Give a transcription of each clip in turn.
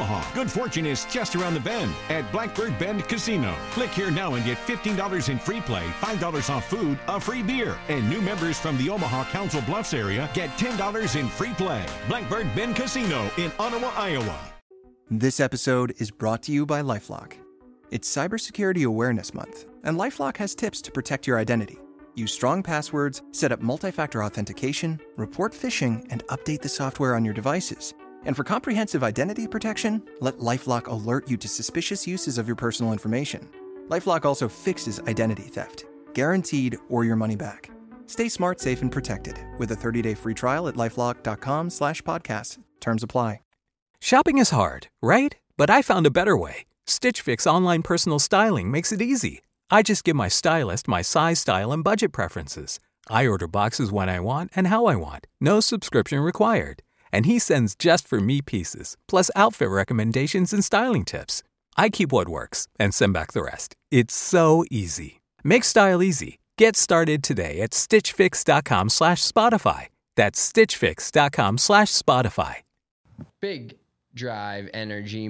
Omaha. Good fortune is just around the bend at Blackbird Bend Casino. Click here now and get $15 in free play, $5 off food, a free beer. And new members from the Omaha Council Bluffs area get $10 in free play. Blackbird Bend Casino in Ottawa, Iowa. This episode is brought to you by LifeLock. It's Cybersecurity Awareness Month, and LifeLock has tips to protect your identity. Use strong passwords, set up multi-factor authentication, report phishing, and update the software on your devices. And for comprehensive identity protection, let LifeLock alert you to suspicious uses of your personal information. LifeLock also fixes identity theft, guaranteed or your money back. Stay smart, safe, and protected with a 30-day free trial at LifeLock.com/podcast. Terms apply. Shopping is hard, right? But I found a better way. Stitch Fix online personal styling makes it easy. I just give my stylist my size, style, and budget preferences. I order boxes when I want and how I want. No subscription required. And he sends just for me pieces, plus outfit recommendations and styling tips. I keep what works and send back the rest. It's so easy. Make style easy. Get started today at stitchfix.com/Spotify. That's stitchfix.com/Spotify. Big Drive Energy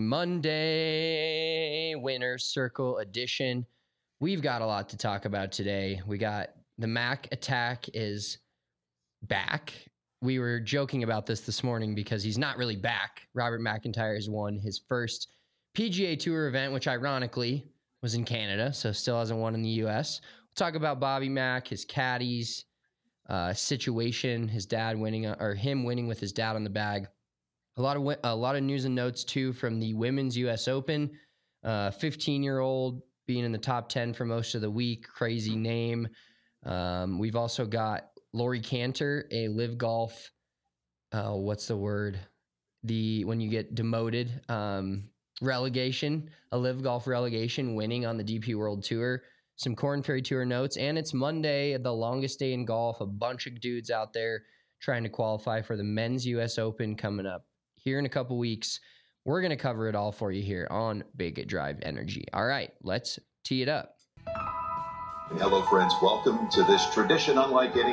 Monday, Winner's Circle edition. We've got a lot to talk about today. We got the Mac attack is back. We were joking about this morning because he's not really back. Robert McIntyre has won his first PGA Tour event, which ironically was in Canada, so still hasn't won in the U.S. We'll talk about Bobby Mack, his caddies situation, his dad winning, or him winning with his dad on the bag. A lot of news and notes too from the Women's U.S. Open. 15-year-old being in the top 10 for most of the week. Crazy name. We've also got Lori Cantor, a Live Golf. What's the word? When you get demoted, relegation, a Live Golf relegation, winning on the DP World Tour. Some Korn Ferry Tour notes, and it's Monday, the longest day in golf. A bunch of dudes out there trying to qualify for the Men's U.S. Open coming up here in a couple weeks. We're going to cover it all for you here on Big Drive Energy. All right, let's tee it up. Hello, friends. Welcome to this tradition unlike any.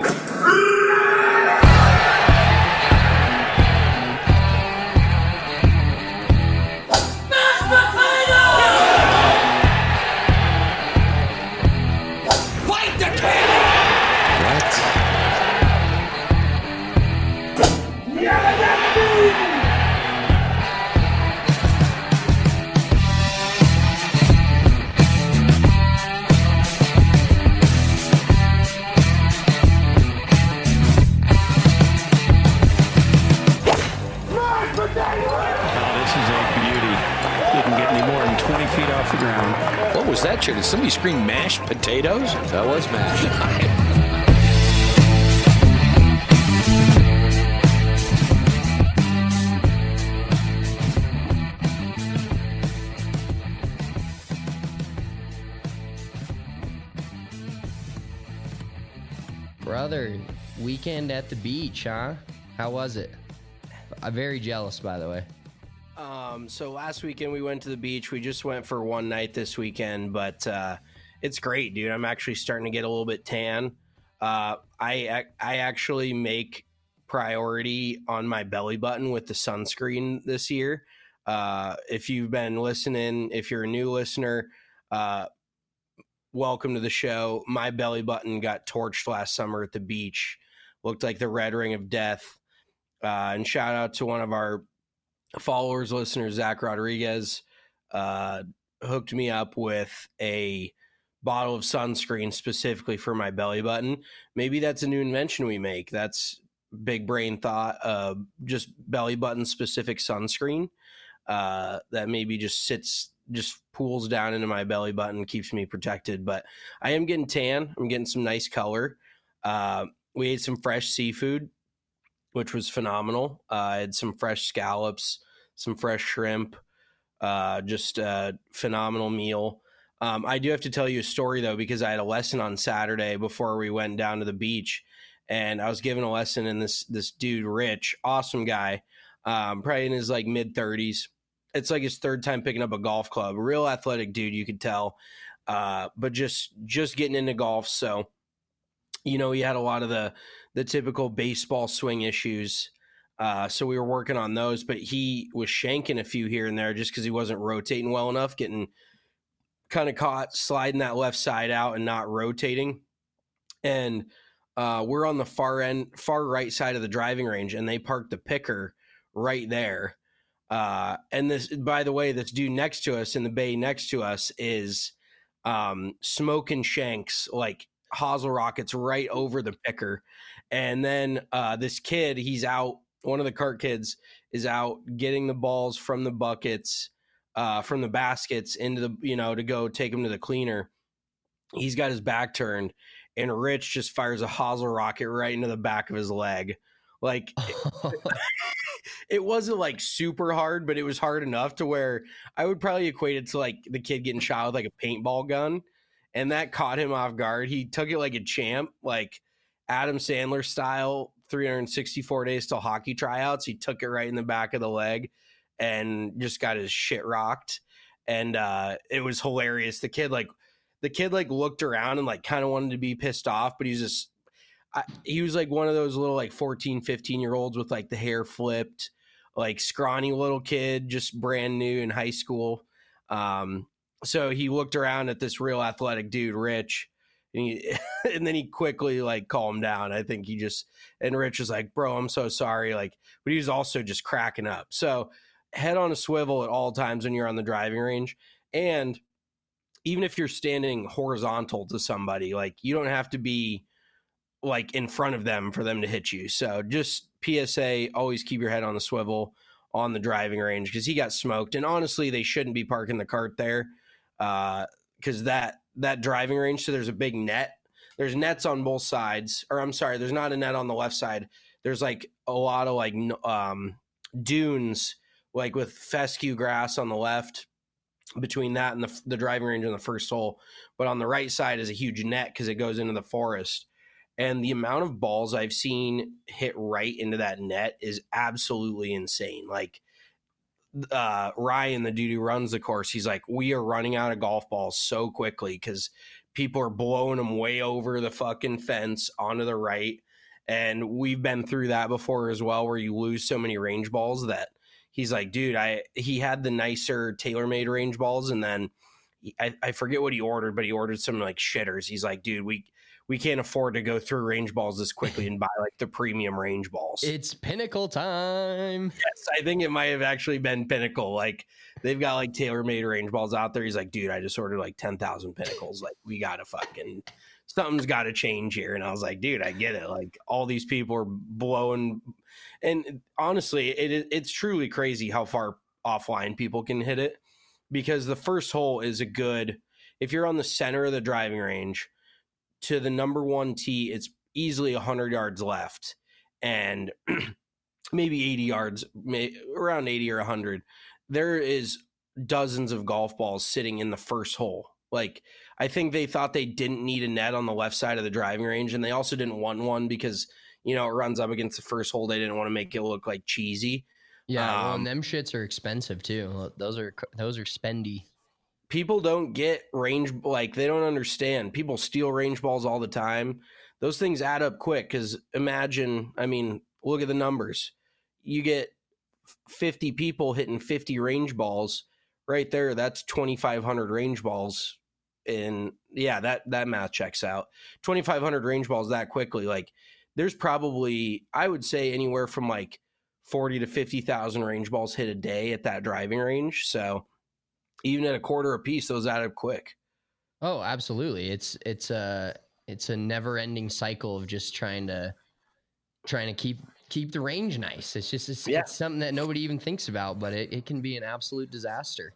What was that, chicken? Did somebody scream mashed potatoes? That was mashed. Brother, weekend at the beach, huh? How was it? I'm very jealous, by the way. So last weekend we went to the beach. We just went for one night this weekend, but it's great, dude. I'm actually starting to get a little bit tan. I actually make priority on my belly button with the sunscreen this year. If you've been listening, if you're a new listener, welcome to the show. My belly button got torched last summer at the beach. Looked like the red ring of death. And shout out to one of our followers, listeners, Zach Rodriguez, hooked me up with a bottle of sunscreen specifically for my belly button. Maybe that's a new invention we make. That's big brain thought, just belly button specific sunscreen that maybe just pools down into my belly button, keeps me protected. But I am getting tan. I'm getting some nice color. We ate some fresh seafood, which was phenomenal. I had some fresh scallops, some fresh shrimp, just a phenomenal meal. I do have to tell you a story, though, because I had a lesson on Saturday before we went down to the beach, and I was given a lesson, and this dude, Rich, awesome guy, probably in his like mid-30s. It's like his third time picking up a golf club. A real athletic dude, you could tell, but just getting into golf. So, you know, he had a lot of the typical baseball swing issues. So we were working on those, but he was shanking a few here and there just because he wasn't rotating well enough, getting kind of caught sliding that left side out and not rotating. And we're on the far right side of the driving range, and they parked the picker right there. And this, by the way, this dude next to us in the bay next to us is smoking shanks like hosel rockets right over the picker. And then this kid, he's out. One of the cart kids is out getting the balls from the buckets, from the baskets into the, to go take them to the cleaner. He's got his back turned, and Rich just fires a hosel rocket right into the back of his leg. Like, it wasn't like super hard, but it was hard enough to where I would probably equate it to like the kid getting shot with like a paintball gun. And that caught him off guard. He took it like a champ, like Adam Sandler style, 364 days till hockey tryouts. He took it right in the back of the leg and just got his shit rocked. And it was hilarious. The kid looked around and like kind of wanted to be pissed off, but he was like one of those little like 14, 15-year-olds with like the hair flipped, like scrawny little kid, just brand new in high school. So he looked around at this real athletic dude, Rich, and then he quickly like calmed down. I think and Rich was like, bro, I'm so sorry. Like, but he was also just cracking up. So head on a swivel at all times when you're on the driving range. And even if you're standing horizontal to somebody, like you don't have to be like in front of them for them to hit you. So just PSA, always keep your head on the swivel on the driving range, because he got smoked. And honestly, they shouldn't be parking the cart there, because that driving range, so there's a big net. There's nets on both sides. Or I'm sorry, there's not a net on the left side. There's like a lot of like dunes, like with fescue grass on the left between that and the driving range on the first hole. But on the right side is a huge net because it goes into the forest. And the amount of balls I've seen hit right into that net is absolutely insane. Like Ryan, the dude who runs the course, he's like, we are running out of golf balls so quickly because people are blowing them way over the fucking fence onto the right. And we've been through that before as well, where you lose so many range balls that he's like, dude, he had the nicer TaylorMade range balls. And then I forget what he ordered, but he ordered some like shitters. He's like, dude, we can't afford to go through range balls this quickly and buy like the premium range balls. It's Pinnacle time. Yes, I think it might have actually been Pinnacle. Like they've got like TaylorMade range balls out there. He's like, dude, I just ordered like 10,000 Pinnacles. Like we got to something's got to change here. And I was like, dude, I get it. Like all these people are blowing. And honestly, it's truly crazy how far offline people can hit it, because the first hole is if you're on the center of the driving range, to the number one tee, it's easily 100 yards left, and maybe 80 yards, around 80 or 100. There is dozens of golf balls sitting in the first hole. Like, I think they thought they didn't need a net on the left side of the driving range, and they also didn't want one because, it runs up against the first hole. They didn't want to make it look like cheesy. Yeah, and them shits are expensive too. Those are spendy. People don't get range, like they don't understand. People steal range balls all the time. Those things add up quick, because look at the numbers. You get 50 people hitting 50 range balls right there. That's 2,500 range balls. And yeah, that math checks out. 2,500 range balls that quickly. Like there's probably, I would say, anywhere from like 40 to 50,000 range balls hit a day at that driving range. So even at a quarter a piece, those add up quick. Oh, absolutely. It's a never-ending cycle of just trying to keep the range nice. It's something that nobody even thinks about, but it can be an absolute disaster.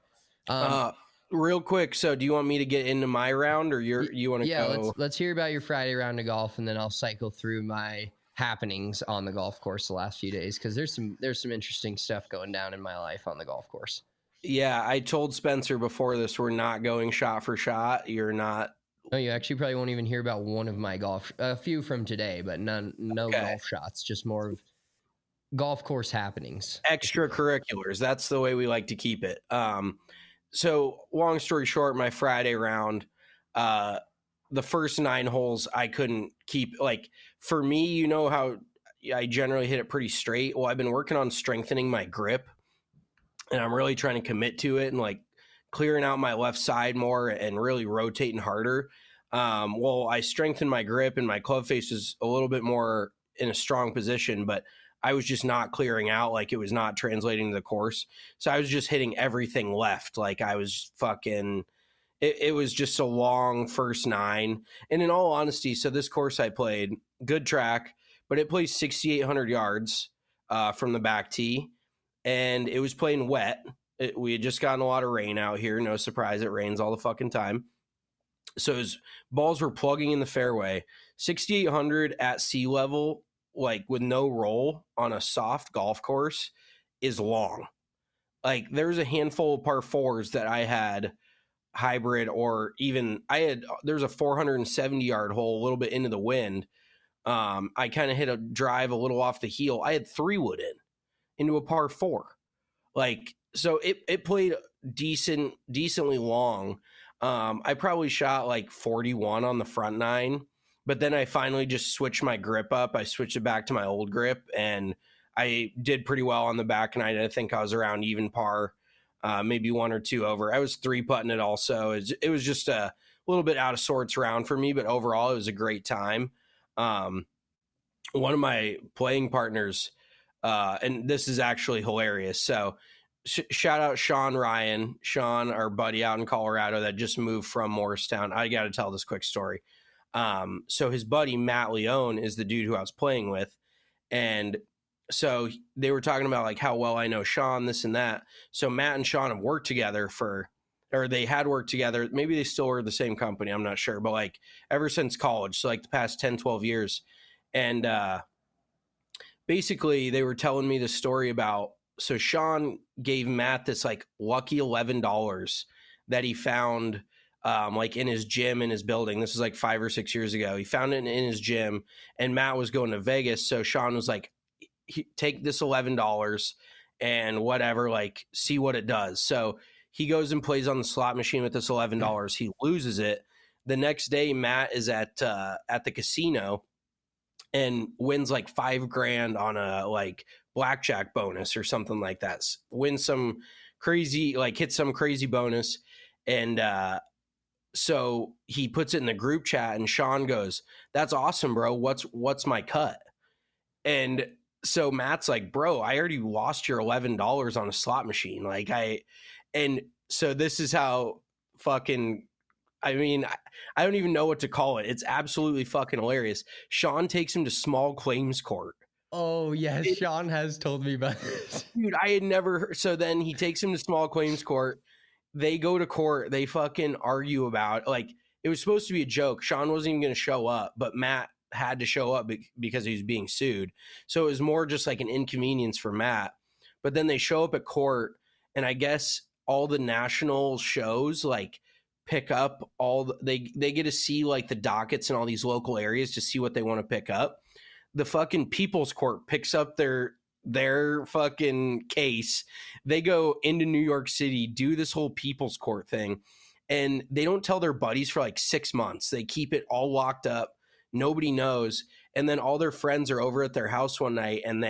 Real quick, so do you want me to get into my round, or you want to go? Yeah, let's hear about your Friday round of golf, and then I'll cycle through my happenings on the golf course the last few days, because there's some interesting stuff going down in my life on the golf course. Yeah, I told Spencer before this, we're not going shot for shot. You're not. No, you actually probably won't even hear about one of my a few from today, but no golf shots, just more of golf course happenings. Extracurriculars. That's the way we like to keep it. So long story short, my Friday round, the first 9 holes I couldn't keep. Like for me, how I generally hit it pretty straight. Well, I've been working on strengthening my grip, and I'm really trying to commit to it and like clearing out my left side more and really rotating harder. Well, I strengthened my grip and my club face was a little bit more in a strong position, but I was just not clearing out. Like it was not translating to the course. So I was just hitting everything left. Like I was fucking, it was just a long first 9. And in all honesty, so this course I played, good track, but it plays 6,800 yards from the back tee. And it was playing wet. We had just gotten a lot of rain out here. No surprise, it rains all the fucking time. So his balls were plugging in the fairway. 6,800 at sea level, like with no roll on a soft golf course, is long. Like there's a handful of par 4s that I had hybrid, or even there's a 470 yard hole a little bit into the wind. I kind of hit a drive a little off the heel. I had 3-wood into a par 4. Like, so it played decently long. I probably shot like 41 on the front 9, but then I finally just switched my grip up. I switched it back to my old grip, and I did pretty well on the back 9. I think I was around even par, maybe 1 or 2 over. I was 3-putting it also. It was just a little bit out of sorts round for me, but overall it was a great time. One of my playing partners, and this is actually hilarious. So shout out Sean Ryan, our buddy out in Colorado that just moved from Morristown. I got to tell this quick story. So his buddy, Matt Leone, is the dude who I was playing with. And so they were talking about like how well I know Sean, this and that. So Matt and Sean have worked together they had worked together. Maybe they still were the same company. I'm not sure, but like ever since college. So like the past 10, 12 years. And, basically they were telling me the story about, so Sean gave Matt this like lucky $11 that he found like in his gym in his building. This was like 5 or 6 years ago. He found it in his gym, and Matt was going to Vegas. So Sean was like, take this $11 and whatever, like see what it does. So he goes and plays on the slot machine with this $11. He loses it. The next day, Matt is at the casino and wins like $5,000 on a like blackjack bonus or something like that. Wins some crazy, like hit some crazy bonus. And so he puts it in the group chat, and Sean goes, "That's awesome, bro. What's my cut?" And so Matt's like, "Bro, I already lost your $11 on a slot machine." And so this is how fucking, I mean, I don't even know what to call it. It's absolutely fucking hilarious. Sean takes him to small claims court. Oh, yes. Sean has told me about this. Dude, I had never heard. So then he takes him to small claims court. They go to court. They fucking argue about, like, it was supposed to be a joke. Sean wasn't even going to show up, but Matt had to show up because he was being sued. So it was more just like an inconvenience for Matt. But then they show up at court, and I guess all the national shows, like, pick up they get to see like the dockets in all these local areas to see what they want to pick up. The fucking People's Court picks up their fucking case. They go into New York City, do this whole People's Court thing, and they don't tell their buddies for like 6 months. They keep it all locked up. Nobody knows. And then all their friends are over at their house one night, and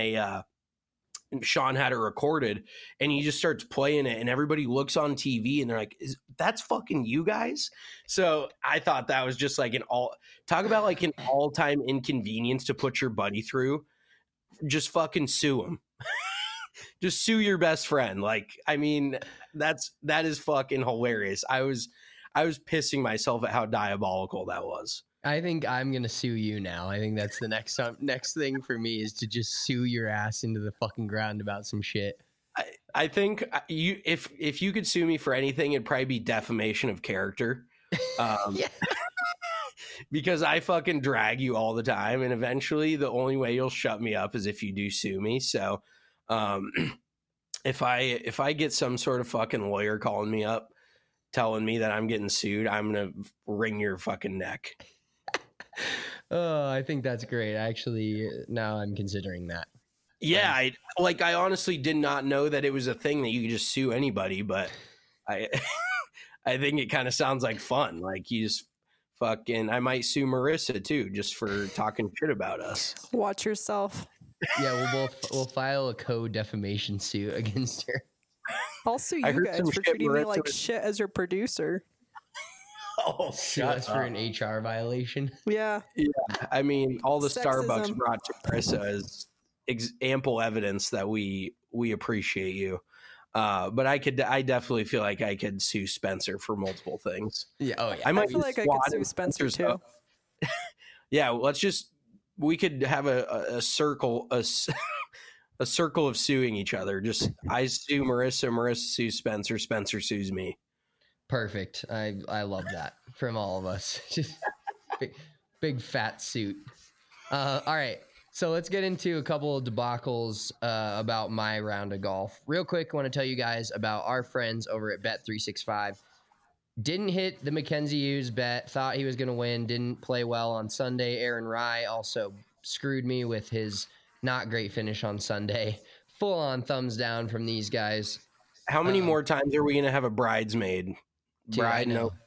Sean had it recorded, and he just starts playing it, and everybody looks on TV and they're like, that's fucking you guys? So I thought that was just like talk about like an all-time inconvenience to put your buddy through. Just fucking sue him. Just sue your best friend. Like, I mean, that is fucking hilarious. I was pissing myself at how diabolical that was. I think I'm going to sue you now. I think that's the next thing for me is to just sue your ass into the fucking ground about some shit. I think if you could sue me for anything, it'd probably be defamation of character. Yeah. Because I fucking drag you all the time, and eventually the only way you'll shut me up is if you do sue me. So if I get some sort of fucking lawyer calling me up telling me that I'm getting sued, I'm going to wring your fucking neck. Oh, I think that's great. Actually, now I'm considering that. Yeah, I honestly did not know that it was a thing that you could just sue anybody, but I think it kind of sounds like fun. Like you just fucking, I might sue Marissa too, just for talking shit about us. Watch yourself. Yeah, we'll file a co-defamation suit against her. I'll sue I you heard guys some for shit treating me Marissa like was- shit as your producer. Oh, Sue us for an HR violation. Yeah. I mean, all the Sexism. Starbucks brought to Marissa is ample evidence that we appreciate you. But I definitely feel like I could sue Spencer for multiple things. Yeah. Oh yeah. I might I feel like I could squat sue in Spencer Spencer's too. up. Yeah, we could have a circle, a circle of suing each other. Just I sue Marissa, Marissa sues Spencer, Spencer sues me. Perfect. I love that from all of us. Just big fat suit. All right. So let's get into a couple of debacles about my round of golf. Real quick, I want to tell you guys about our friends over at Bet365. Didn't hit the Mackenzie Hughes bet. Thought he was going to win. Didn't play well on Sunday. Aaron Rye also screwed me with his not great finish on Sunday. Full on thumbs down from these guys. How many more times are we going to have a bridesmaid? Dude, I know. No.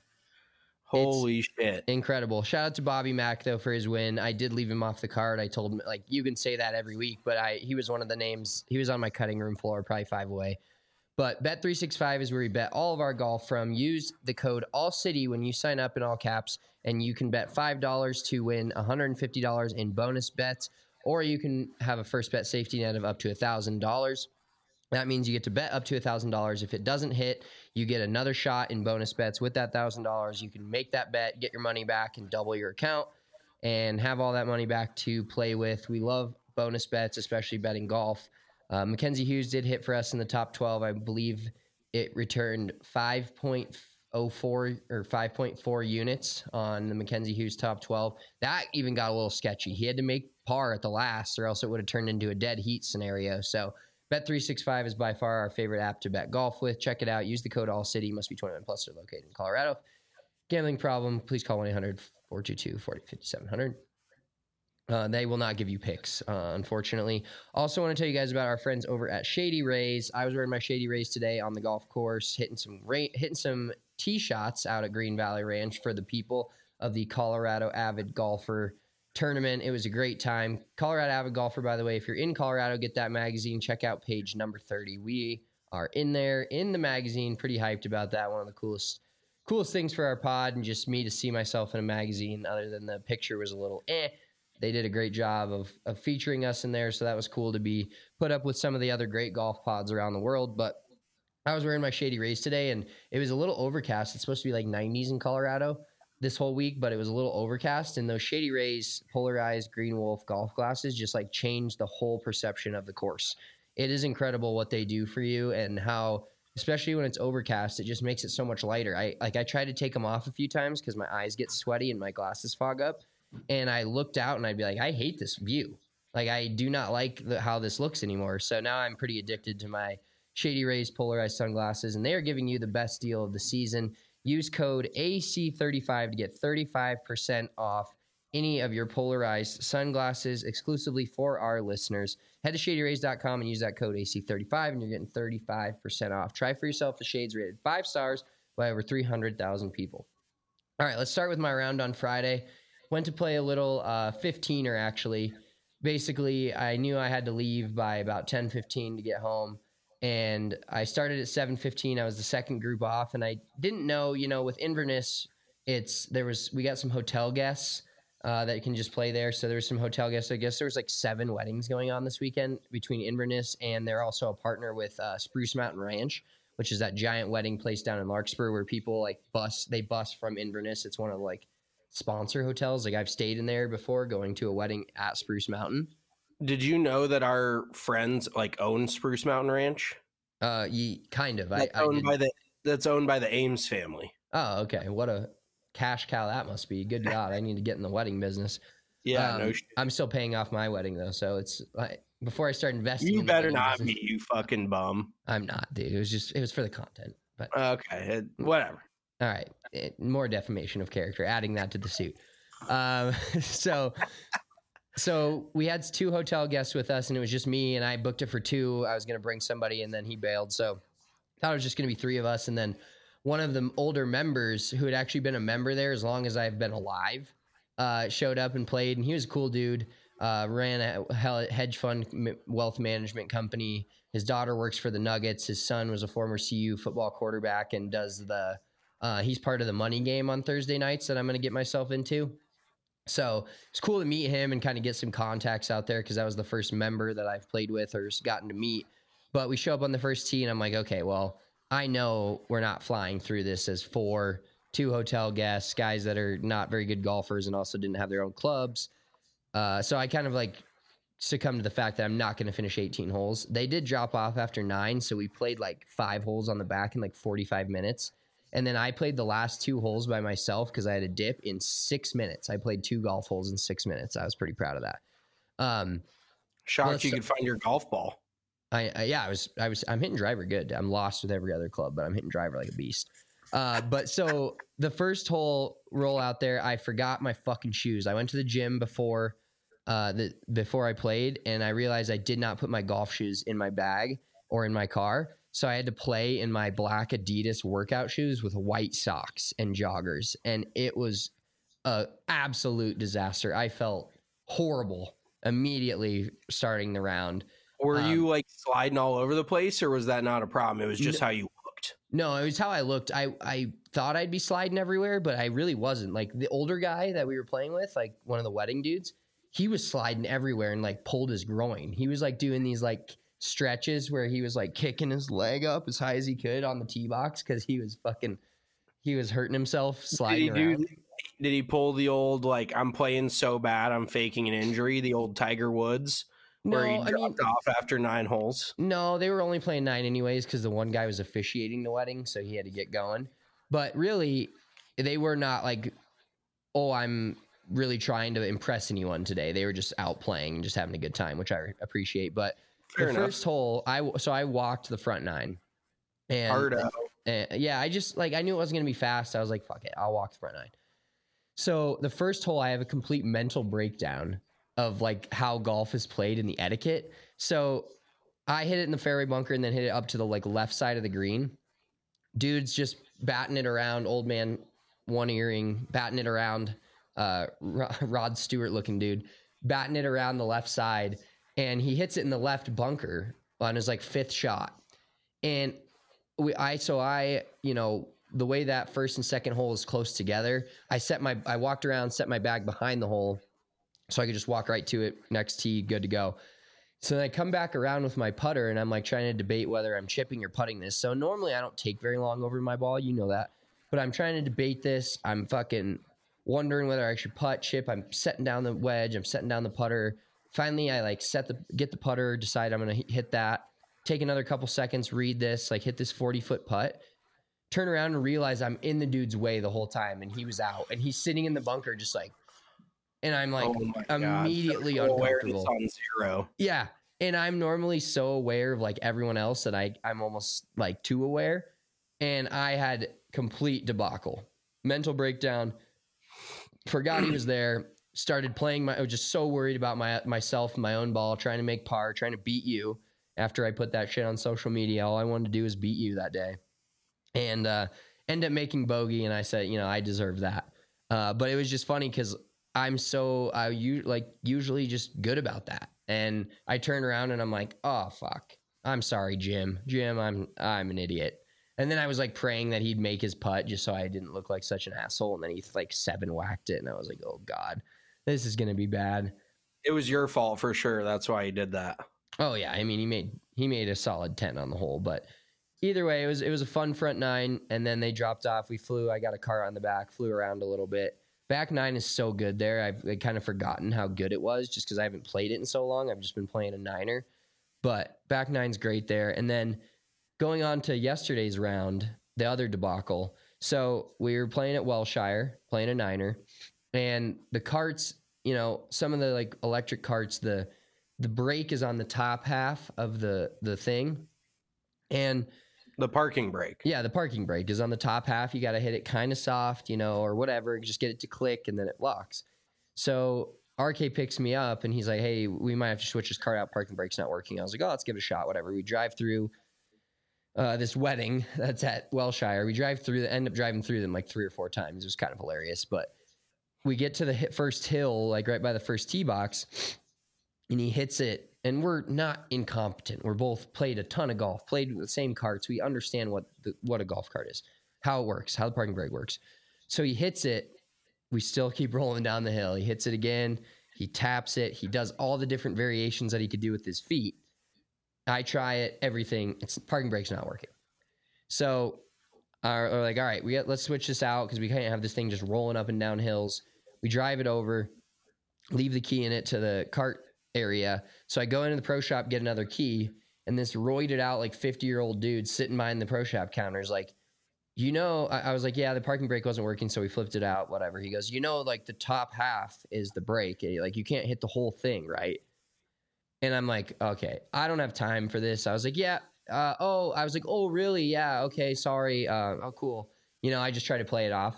Holy shit. Incredible. Shout out to Bobby Mack, though, for his win. I did leave him off the card. I told him, like, you can say that every week, but he was one of the names. He was on my cutting room floor, probably 5 away. But Bet365 is where we bet all of our golf from. Use the code ALLCITY when you sign up in all caps, and you can bet $5 to win $150 in bonus bets, or you can have a first bet safety net of up to $1,000. That means you get to bet up to $1,000. If it doesn't hit, you get another shot in bonus bets with that $1,000. You can make that bet, get your money back, and double your account, and have all that money back to play with. We love bonus bets, especially betting golf. Mackenzie Hughes did hit for us in the top 12. I believe it returned 5.04 or 5.4 units on the Mackenzie Hughes top 12. That even got a little sketchy. He had to make par at the last, or else it would have turned into a dead heat scenario. So Bet365 is by far our favorite app to bet golf with. Check it out. Use the code ALLCITY. Must be 21 plus. They're located in Colorado. Gambling problem, please call 1-800-422-4700. They will not give you picks, unfortunately. Also want to tell you guys about our friends over at Shady Rays. I was wearing my Shady Rays today on the golf course, hitting some tee shots out at Green Valley Ranch for the people of the Colorado Avid Golfer Tournament. It was a great time. Colorado Avid Golfer, by the way, if you're in Colorado, get that magazine. Check out page number 30. We are in there in the magazine. Pretty hyped about that. One of the coolest things for our pod, and just me to see myself in a magazine, other than the picture was a little They did a great job of featuring us in there, so that was cool to be put up with some of the other great golf pods around the world. But I was wearing my Shady Rays today, and it was a little overcast. It's supposed to be like 90s in Colorado this whole week, but it was a little overcast, and those Shady Rays polarized Green Wolf golf glasses just like changed the whole perception of the course. It is incredible what they do for you, and how, especially when it's overcast, it just makes it so much lighter. I tried to take them off a few times because my eyes get sweaty and my glasses fog up. And I looked out and I'd be like, I hate this view. Like, I do not like how this looks anymore. So now I'm pretty addicted to my Shady Rays polarized sunglasses, and they are giving you the best deal of the season. Use code AC35 to get 35% off any of your polarized sunglasses exclusively for our listeners. Head to shadyrays.com and use that code AC35, and you're getting 35% off. Try for yourself the shades rated 5 stars by over 300,000 people. All right, let's start with my round on Friday. Went to play a little 15er, actually. Basically, I knew I had to leave by about 10:15 to get home, and I started at 7:15. I was the second group off, and I didn't know, with Inverness, we got some hotel guests that can just play there. So there was some hotel guests. I guess there was like 7 weddings going on this weekend between Inverness, and they're also a partner with Spruce Mountain Ranch, which is that giant wedding place down in Larkspur where people bus from Inverness. It's one of sponsor hotels. I've stayed in there before, going to a wedding at Spruce Mountain. Did you know that our friends own Spruce Mountain Ranch? Kind of. That's owned by the Ames family. Oh, okay. What a cash cow that must be. Good God, I need to get in the wedding business. Yeah, no shit. I'm still paying off my wedding though, so it's before I start investing. You in better not business, be, you fucking bum. I'm not, dude. It was for the content. But okay, whatever. All right, more defamation of character, adding that to the suit. So we had 2 hotel guests with us, and it was just me, and I booked it for 2. I was going to bring somebody, and then he bailed. So I thought it was just going to be 3 of us. And then one of the older members, who had actually been a member there as long as I've been alive, showed up and played, and he was a cool dude. ran a hedge fund wealth management company. His daughter works for the Nuggets. His son was a former CU football quarterback and does he's part of the money game on Thursday nights that I'm going to get myself into. So it's cool to meet him and kind of get some contacts out there because that was the first member that I've played with or gotten to meet. But we show up on the first tee and I'm like, okay, well, I know we're not flying through this as 2 hotel guests, guys that are not very good golfers and also didn't have their own clubs. So I kind of like succumbed to the fact that I'm not going to finish 18 holes. They did drop off after 9, so we played like 5 holes on the back in like 45 minutes. And then I played the last 2 holes by myself because I had a dip in 6 minutes. I played 2 golf holes in 6 minutes. I was pretty proud of that. Shocked you could find your golf ball. I'm hitting driver good. I'm lost with every other club, but I'm hitting driver like a beast. But so the first hole roll out there, I forgot my fucking shoes. I went to the gym before I played, and I realized I did not put my golf shoes in my bag or in my car. So I had to play in my black Adidas workout shoes with white socks and joggers. And it was an absolute disaster. I felt horrible immediately starting the round. Were you like sliding all over the place, or was that not a problem? It was just how you looked. No, it was how I looked. I thought I'd be sliding everywhere, but I really wasn't. Like the older guy that we were playing with, like one of the wedding dudes, he was sliding everywhere and like pulled his groin. He was like doing these like stretches where he was like kicking his leg up as high as he could on the tee box because he was hurting himself sliding around. Did he pull the old like I'm playing so bad I'm faking an injury, the old Tiger Woods? Where he dropped off after 9 holes? No, they were only playing 9 anyways because the one guy was officiating the wedding, so he had to get going. But really, they were not like, oh, I'm really trying to impress anyone today. They were just out playing and just having a good time, which I appreciate. But Fair enough. First hole, I walked the front 9. And, Hard out. Yeah, I just, like, I knew it wasn't going to be fast. I was like, fuck it, I'll walk the front 9. So the first hole, I have a complete mental breakdown of like how golf is played and the etiquette. So I hit it in the fairway bunker and then hit it up to the like left side of the green. Dude's just batting it around, old man, one earring, batting it around, Rod Stewart looking dude, batting it around the left side. And he hits it in the left bunker on his like 5th shot. And the way that first and second hole is close together, I walked around, set my bag behind the hole, so I could just walk right to it, next tee, good to go. So then I come back around with my putter, and I'm like trying to debate whether I'm chipping or putting this. So normally I don't take very long over my ball, you know that. But I'm trying to debate this. I'm fucking wondering whether I should putt, chip. I'm setting down the wedge. I'm setting down the putter. Finally, I like get the putter, decide I'm going to hit that. Take another couple seconds, read this, like hit this 40-foot putt. Turn around and realize I'm in the dude's way the whole time, and he was out. And he's sitting in the bunker just like, and I'm like immediately uncomfortable. On 0. Yeah. And I'm normally so aware of like everyone else that I'm almost like too aware. And I had complete debacle, mental breakdown, forgot he was there, started playing. I was just so worried about myself and my own ball, trying to make par, trying to beat you after I put that shit on social media. All I wanted to do was beat you that day and end up making bogey. And I said, I deserve that. But it was just funny because usually just good about that. And I turn around and I'm like, oh fuck, I'm sorry, Jim, I'm an idiot. And then I was like praying that he'd make his putt just so I didn't look like such an asshole. And then he like 7-whacked it. And I was like, oh God, this is going to be bad. It was your fault for sure. That's why he did that. Oh yeah. I mean, he made a solid 10 on the hole, but either way, it was a fun front 9. And then they dropped off. We flew, I got a car on the back, flew around a little bit. Back 9 is so good there. I've kind of forgotten how good it was just because I haven't played it in so long. I've just been playing a 9er. But back 9's great there. And then going on to yesterday's round, the other debacle. So we were playing at Welshire, playing a 9er. And the carts, some of the like electric carts, the brake is on the top half of the thing. And the parking brake. Yeah, the parking brake is on the top half. You got to hit it kind of soft, or whatever. Just get it to click, and then it locks. So RK picks me up, and he's like, hey, we might have to switch this car out. Parking brake's not working. I was like, oh, let's give it a shot, whatever. We drive through this wedding that's at Welshire. We end up driving through them like 3 or 4 times. It was kind of hilarious. But we get to the first hill, like right by the first tee box, and he hits it. And we're not incompetent. We're both played a ton of golf, played with the same carts. We understand what a golf cart is, how it works, how the parking brake works. So he hits it. We still keep rolling down the hill. He hits it again. He taps it. He does all the different variations that he could do with his feet. I try it, everything. Parking brake's not working. So we're like, all right, let's switch this out because we can't have this thing just rolling up and down hills. We drive it over, leave the key in it to the cart area. So I go into the pro shop, get another key, and this roided out like 50-year-old dude sitting behind the pro shop counter is like, I was like, yeah, the parking brake wasn't working, so we flipped it out, whatever. He goes, like the top half is the brake. Like you can't hit the whole thing, right? And I'm like, okay, I don't have time for this. I was like, yeah. I was like, oh, really? Yeah. Okay. Sorry. Oh, cool. I just try to play it off.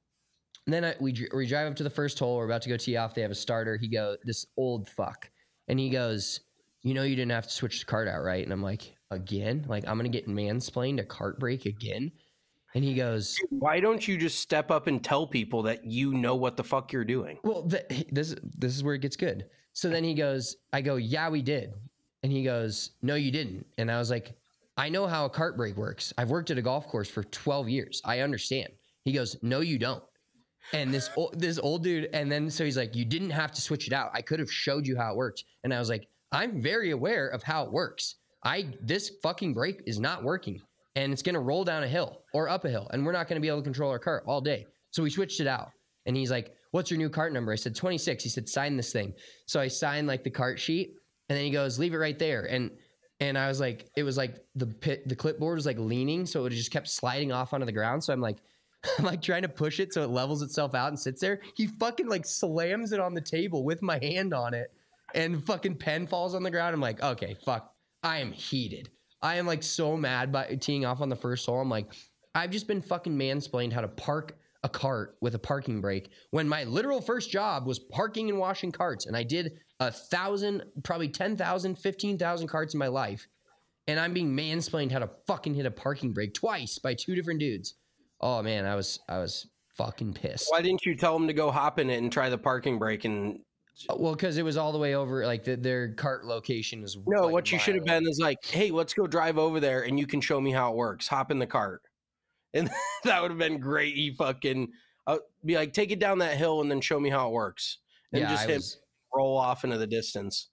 And then we drive up to the first hole. We're about to go tee off. They have a starter. This old fuck. And he goes, you didn't have to switch the cart out, right? And I'm like, again? Like, I'm going to get mansplained a cart brake again? And he goes, why don't you just step up and tell people that you know what the fuck you're doing? Well, this is where it gets good. So then I go, yeah, we did. And he goes, no, you didn't. And I was like, I know how a cart brake works. I've worked at a golf course for 12 years. I understand. He goes, no, you don't. And this old dude, and then so he's like, you didn't have to switch it out. I could have showed you how it worked. And I was like, I'm very aware of how it works. This fucking brake is not working, and it's gonna roll down a hill or up a hill, and we're not gonna be able to control our cart all day. So we switched it out. And he's like, what's your new cart number? I said 26. He said, sign this thing. So I signed like the cart sheet, and then he goes, leave it right there. And I was like, it was like the clipboard was like leaning, so it just kept sliding off onto the ground. So I'm like trying to push it so it levels itself out and sits there. He fucking like slams it on the table with my hand on it, and fucking pen falls on the ground. I'm like, okay, fuck. I am heated. I am like so mad by teeing off on the first hole. I'm like, I've just been fucking mansplained how to park a cart with a parking brake when my literal first job was parking and washing carts. And I did 1,000, probably 10,000, 15,000 carts in my life. And I'm being mansplained how to fucking hit a parking brake twice by two different dudes. Oh man, I was fucking pissed. Why didn't you tell them to go hop in it and try the parking brake? And well, because it was all the way over, like their cart location was. No, like what you should have been is like, hey, let's go drive over there and you can show me how it works. Hop in the cart, and that would have been great. He fucking be like, take it down that hill and then show me how it works, and just roll off into the distance.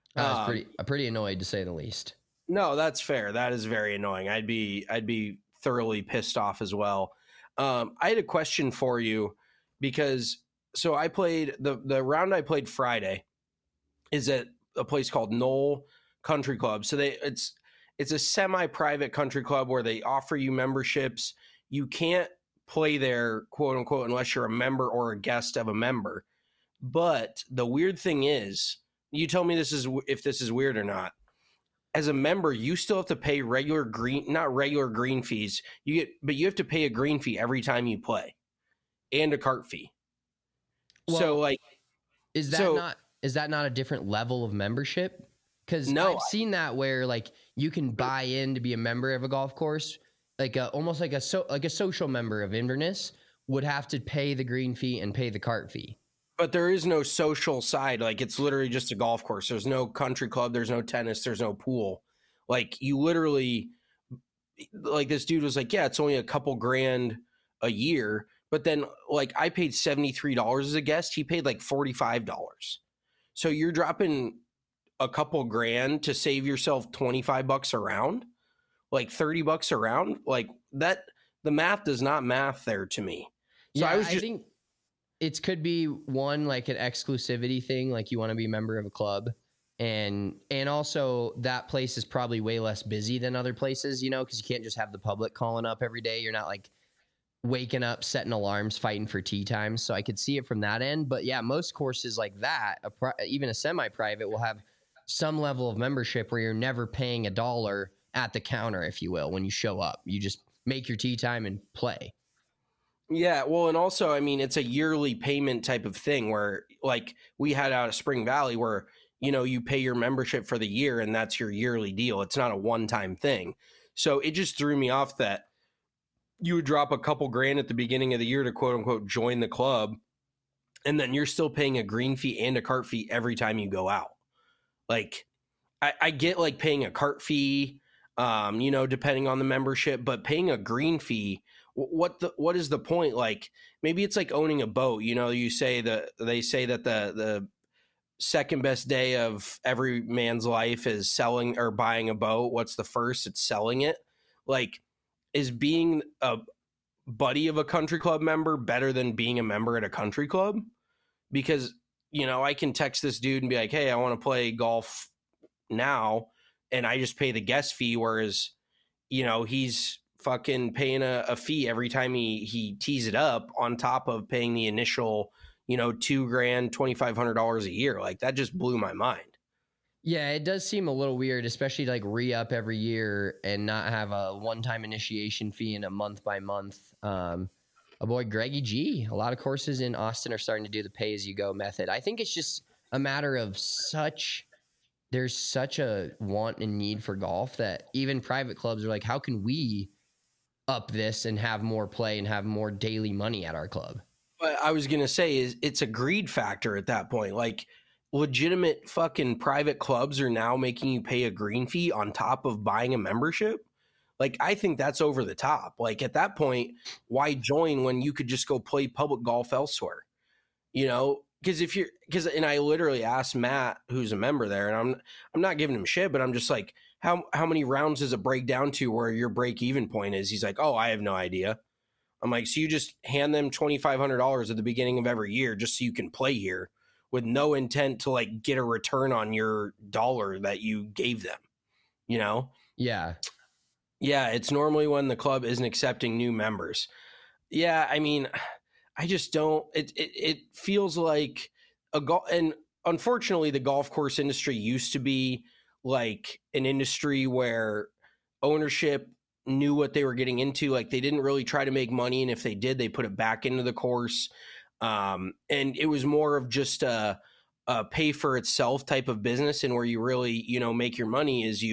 I was pretty annoyed, to say the least. No, that's fair. That is very annoying. I'd be thoroughly pissed off as well. I had a question for you because so I played the round I played Friday is at a place called Knoll Country Club. So it's a semi-private country club where they offer you memberships. You can't play there, quote unquote, unless you're a member or a guest of a member. But the weird thing is, you tell me if this is weird or not. As a member, you still have to pay not regular green fees. But you have to pay a green fee every time you play, and a cart fee. Well, so like, is that not a different level of membership? Because I've seen that where like you can buy in to be a member of a golf course, like almost like a social member of Inverness would have to pay the green fee and pay the cart fee. But there is no social side. Like, it's literally just a golf course. There's no country club. There's no tennis. There's no pool. Like, you literally, like, this dude was like, yeah, it's only a couple grand a year. But then, like, I paid $73 as a guest. He paid like $45. So you're dropping a couple grand to save yourself $25 a round, like $30 a round. Like, that, the math does not math there to me. So yeah, I think it could be one, like an exclusivity thing, like you want to be a member of a club, and also that place is probably way less busy than other places, because you can't just have the public calling up every day. You're not like waking up, setting alarms, fighting for tee times. So I could see it from that end. But yeah, most courses like that, even a semi-private, will have some level of membership where you're never paying $1 at the counter, if you will, when you show up. You just make your tee time and play. Yeah, well, and also, I mean, it's a yearly payment type of thing where, like, we had out of Spring Valley where, you pay your membership for the year and that's your yearly deal. It's not a one-time thing. So it just threw me off that you would drop a couple grand at the beginning of the year to, quote unquote, join the club, and then you're still paying a green fee and a cart fee every time you go out. Like, I get like paying a cart fee, depending on the membership, but paying a green fee, what is the point? Like, maybe it's like owning a boat. They say that the second best day of every man's life is selling or buying a boat. What's the first? It's selling it. Like, is being a buddy of a country club member better than being a member at a country club? Because, I can text this dude and be like, hey, I want to play golf now, and I just pay the guest fee, whereas, he's fucking paying a fee every time he tees it up on top of paying the initial, $2,000, $2,500 a year. Like, that just blew my mind. Yeah, it does seem a little weird, especially to like re-up every year and not have a one-time initiation fee and a month-by-month. A boy, Greggy G, a lot of courses in Austin are starting to do the pay-as-you-go method. I think it's just a matter of there's such a want and need for golf that even private clubs are like, how can we up this and have more play and have more daily money at our club? What I was going to say is it's a greed factor at that point. Like, legitimate fucking private clubs are now making you pay a green fee on top of buying a membership. Like, I think that's over the top. Like, at that point, why join when you could just go play public golf elsewhere? And I literally asked Matt, who's a member there, and I'm not giving him shit, but I'm just like, how many rounds does it break down to where your break even point is? He's like, oh, I have no idea. I'm like, so you just hand them $2,500 at the beginning of every year just so you can play here with no intent to like get a return on your dollar that you gave them, Yeah. Yeah, it's normally when the club isn't accepting new members. Yeah, I mean, I just don't. It feels like and unfortunately, the golf course industry used to be like an industry where ownership knew what they were getting into. Like, they didn't really try to make money, and if they did, they put it back into the course. And it was more of just a pay for itself type of business, and where you really, make your money is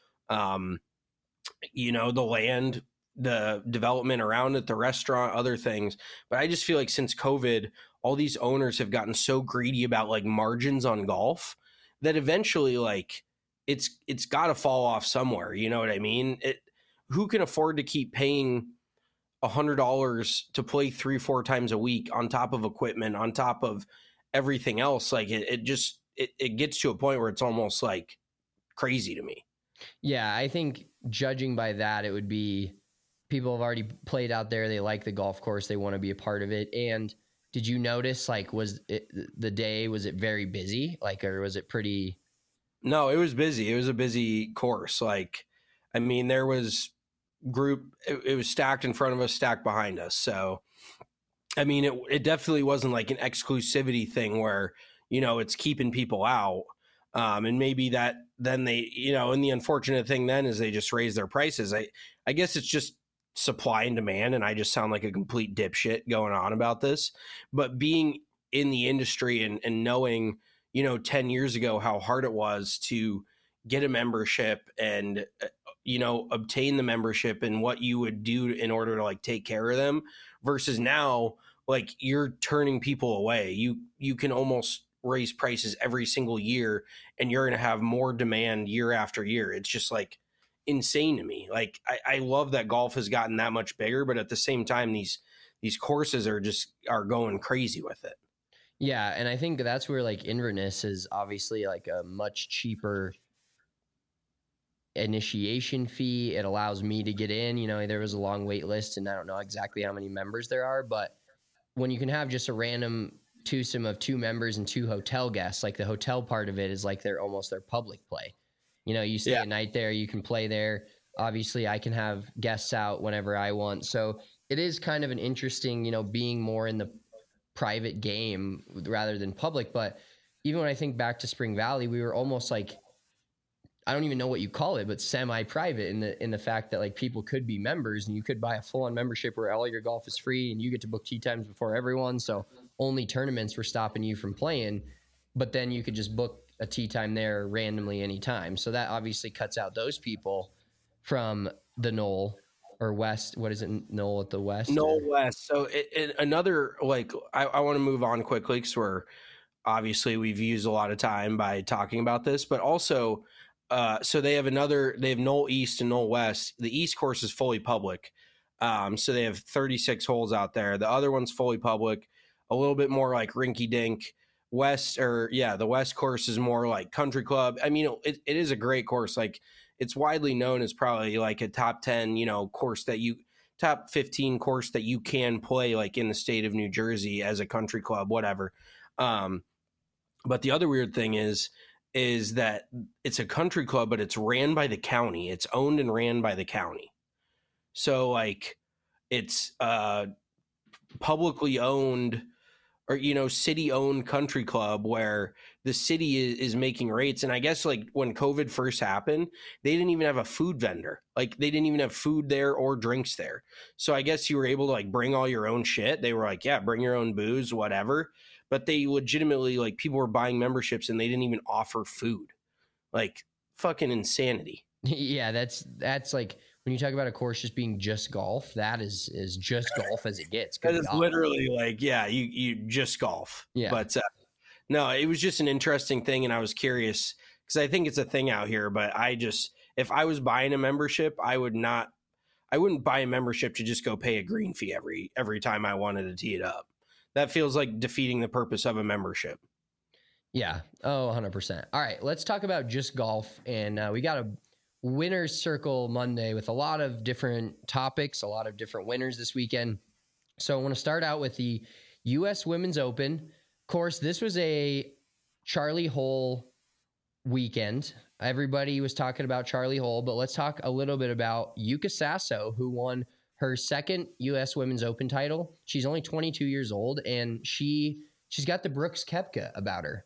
the land, the development around it, the restaurant, other things. But I just feel like since COVID, all these owners have gotten so greedy about like margins on golf that eventually like it's got to fall off somewhere. You know what I mean? Who can afford to keep paying $100 to play 3-4 times a week on top of equipment, on top of everything else? Like, it gets to a point where it's almost like crazy to me. Yeah, I think judging by that, it would be people have already played out there. They like the golf course. They want to be a part of it. And did you notice, like, was it very busy? Like, or was it pretty? No, it was busy. It was a busy course. Like, I mean, there was it was stacked in front of us, stacked behind us. So, I mean, it definitely wasn't like an exclusivity thing where, it's keeping people out. And maybe that then they, and the unfortunate thing then is they just raise their prices. I guess it's just supply and demand. And I just sound like a complete dipshit going on about this, but being in the industry and knowing, 10 years ago, how hard it was to get a membership and, obtain the membership and what you would do in order to like take care of them versus now, like, you're turning people away. You can almost raise prices every single year and you're going to have more demand year after year. It's just like insane to me. Like, I love that golf has gotten that much bigger, but at the same time, these courses are going crazy with it. Yeah. And I think that's where like Inverness is obviously like a much cheaper initiation fee. It allows me to get in, there was a long wait list and I don't know exactly how many members there are, but when you can have just a random twosome of 2 members and 2 hotel guests, like the hotel part of it is like almost their public play. You stay a night there, you can play there. Obviously I can have guests out whenever I want. So it is kind of an interesting, being more in the private game rather than public. But even when I think back to Spring Valley, we were almost like, I don't even know what you call it, but semi-private in the fact that like people could be members and you could buy a full-on membership where all your golf is free and you get to book tee times before everyone. So only tournaments were stopping you from playing, but then you could just book a tee time there randomly anytime. So that obviously cuts out those people from the Knoll or West. What is it? Knoll at the West? Knoll West. So another, like, I want to move on quickly because we're obviously we've used a lot of time by talking about this, but also, so they have Knoll East and Knoll West. The East course is fully public. So they have 36 holes out there. The other one's fully public, a little bit more like rinky dink. The West course is more like country club. I mean, it is a great course. Like, it's widely known as probably like a top 10, course top 15 course that you can play like in the state of New Jersey as a country club, whatever. But the other weird thing is that it's a country club, but it's ran by the county. It's owned and ran by the county. So like it's publicly owned or, city owned country club where the city is making rates. And I guess like when COVID first happened, they didn't even have a food vendor. Like they didn't even have food there or drinks there. So I guess you were able to like bring all your own shit. They were like, yeah, bring your own booze, whatever. But they legitimately, like, people were buying memberships and they didn't even offer food. Like, fucking insanity. Yeah, that's like when you talk about a course just being just golf, that is just golf as it gets. That is literally like, yeah, you just golf. Yeah. But no, it was just an interesting thing, and I was curious because I think it's a thing out here. But if I was buying a membership, I wouldn't buy a membership to just go pay a green fee every time I wanted to tee it up. That feels like defeating the purpose of a membership. Yeah. Oh, 100%. All right. Let's talk about just golf. And we got a winner's circle Monday with a lot of different topics, a lot of different winners this weekend. So I want to start out with the U.S. Women's Open. Of course, this was a Charlie Hole weekend. Everybody was talking about Charlie Hole, but let's talk a little bit about Yuka Sasso, who won her second U.S. Women's Open title. She's only 22 years old, and she's got the Brooks Koepka about her.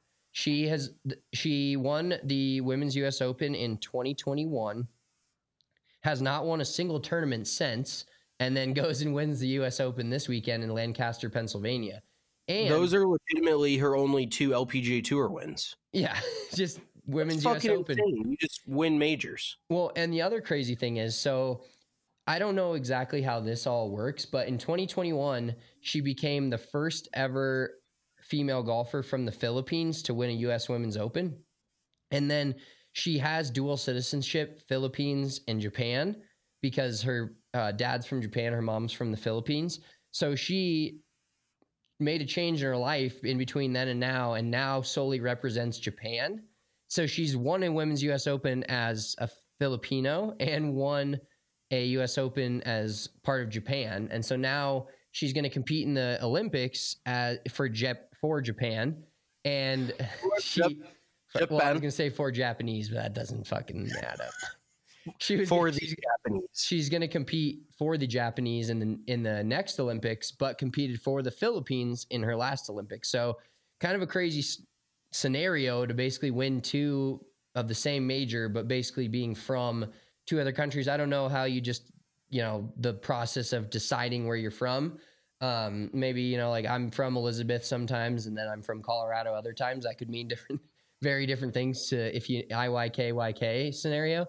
She won the Women's U.S. Open in 2021, has not won a single tournament since, and then goes and wins the U.S. Open this weekend in Lancaster, Pennsylvania. And those are legitimately her only 2 LPGA Tour wins. Yeah, just Women's U.S. Open. Insane. You just win majors. Well, and the other crazy thing is, so I don't know exactly how this all works, but in 2021, she became the first ever female golfer from the Philippines to win a U.S. Women's Open. And then she has dual citizenship, Philippines and Japan, because her dad's from Japan, her mom's from the Philippines. So she made a change in her life in between then and now solely represents Japan. So she's won a Women's U.S. Open as a Filipino and won a U.S. Open as part of Japan. And so now she's going to compete in the Olympics for Japan. And I was going to say for Japanese, but that doesn't fucking add up. She's Japanese. She's going to compete for the Japanese in the next Olympics, but competed for the Philippines in her last Olympics. So kind of a crazy scenario to basically win 2 of the same major, but basically being from 2 other countries. I don't know how you just, the process of deciding where you're from. Maybe, like I'm from Elizabeth sometimes, and then I'm from Colorado other times. That could mean very different things to if you IYK scenario.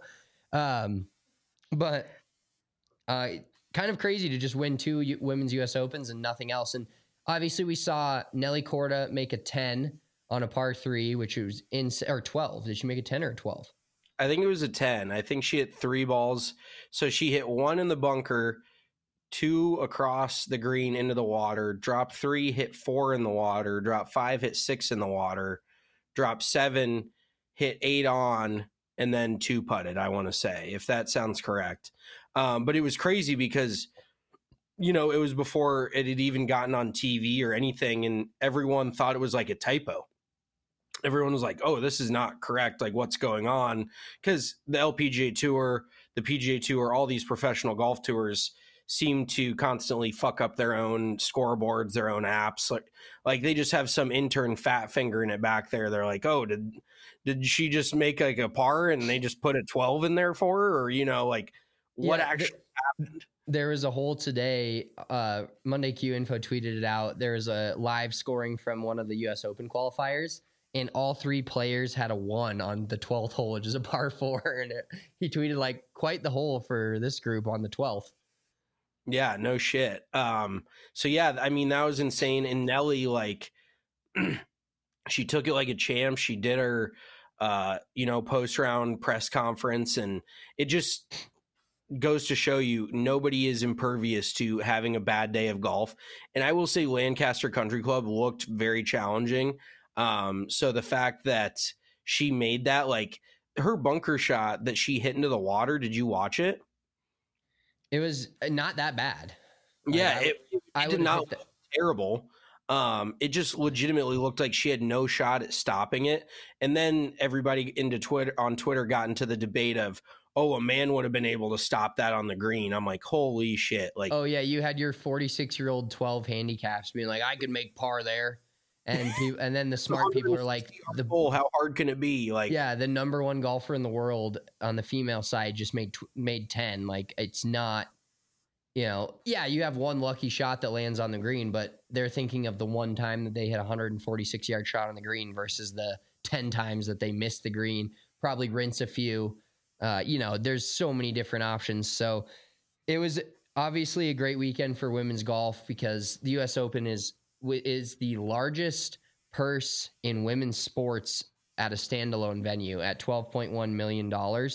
But kind of crazy to just win 2 Women's U.S. Opens and nothing else. And obviously we saw Nelly Korda make a 10 on a par 3, which was or 12. Did she make a 10 or a 12? I think it was a 10. I think she hit 3 balls. So she hit 1 in the bunker, 2 across the green into the water, dropped 3, hit 4 in the water, dropped 5, hit 6 in the water, dropped 7, hit 8 on, and then 2 putted, I want to say, if that sounds correct. But it was crazy because, it was before it had even gotten on TV or anything, and everyone thought it was like a typo. Everyone was like, oh, this is not correct. Like, what's going on? Because the LPGA Tour, the PGA Tour, all these professional golf tours seem to constantly fuck up their own scoreboards, their own apps. Like they just have some intern fat finger in it back there. They're like, oh, did she just make like a par and they just put a 12 in there for her? Or, what actually happened? There was a hole today. Monday Q Info tweeted it out. There was a live scoring from one of the U.S. Open qualifiers, and all 3 players had a 1 on the 12th hole, which is a par 4. And he tweeted like quite the hole for this group on the 12th. Yeah, no shit. So yeah, I mean, that was insane. And Nelly, like, She took it like a champ. She did her, post round press conference, and it just goes to show you nobody is impervious to having a bad day of golf. And I will say Lancaster Country Club looked very challenging. So the fact that she made that, like her bunker shot that she hit into the water, did you watch it? It was not that bad. Yeah, it did not look terrible. It just legitimately looked like she had no shot at stopping it. And then everybody on Twitter got into the debate of, oh, a man would have been able to stop that on the green. I'm like, holy shit. Like, oh yeah, you had your 46-year-old 12 handicaps being like, I could make par there. And then the smart people are like, how hard can it be? Like, yeah, the number one golfer in the world on the female side just made 10. Like, it's not, yeah, you have one lucky shot that lands on the green, but they're thinking of the one time that they hit a 146-yard shot on the green versus the 10 times that they missed the green, probably rinse a few. There's so many different options. So it was obviously a great weekend for women's golf because the U.S. Open is the largest purse in women's sports at a standalone venue at $12.1 million.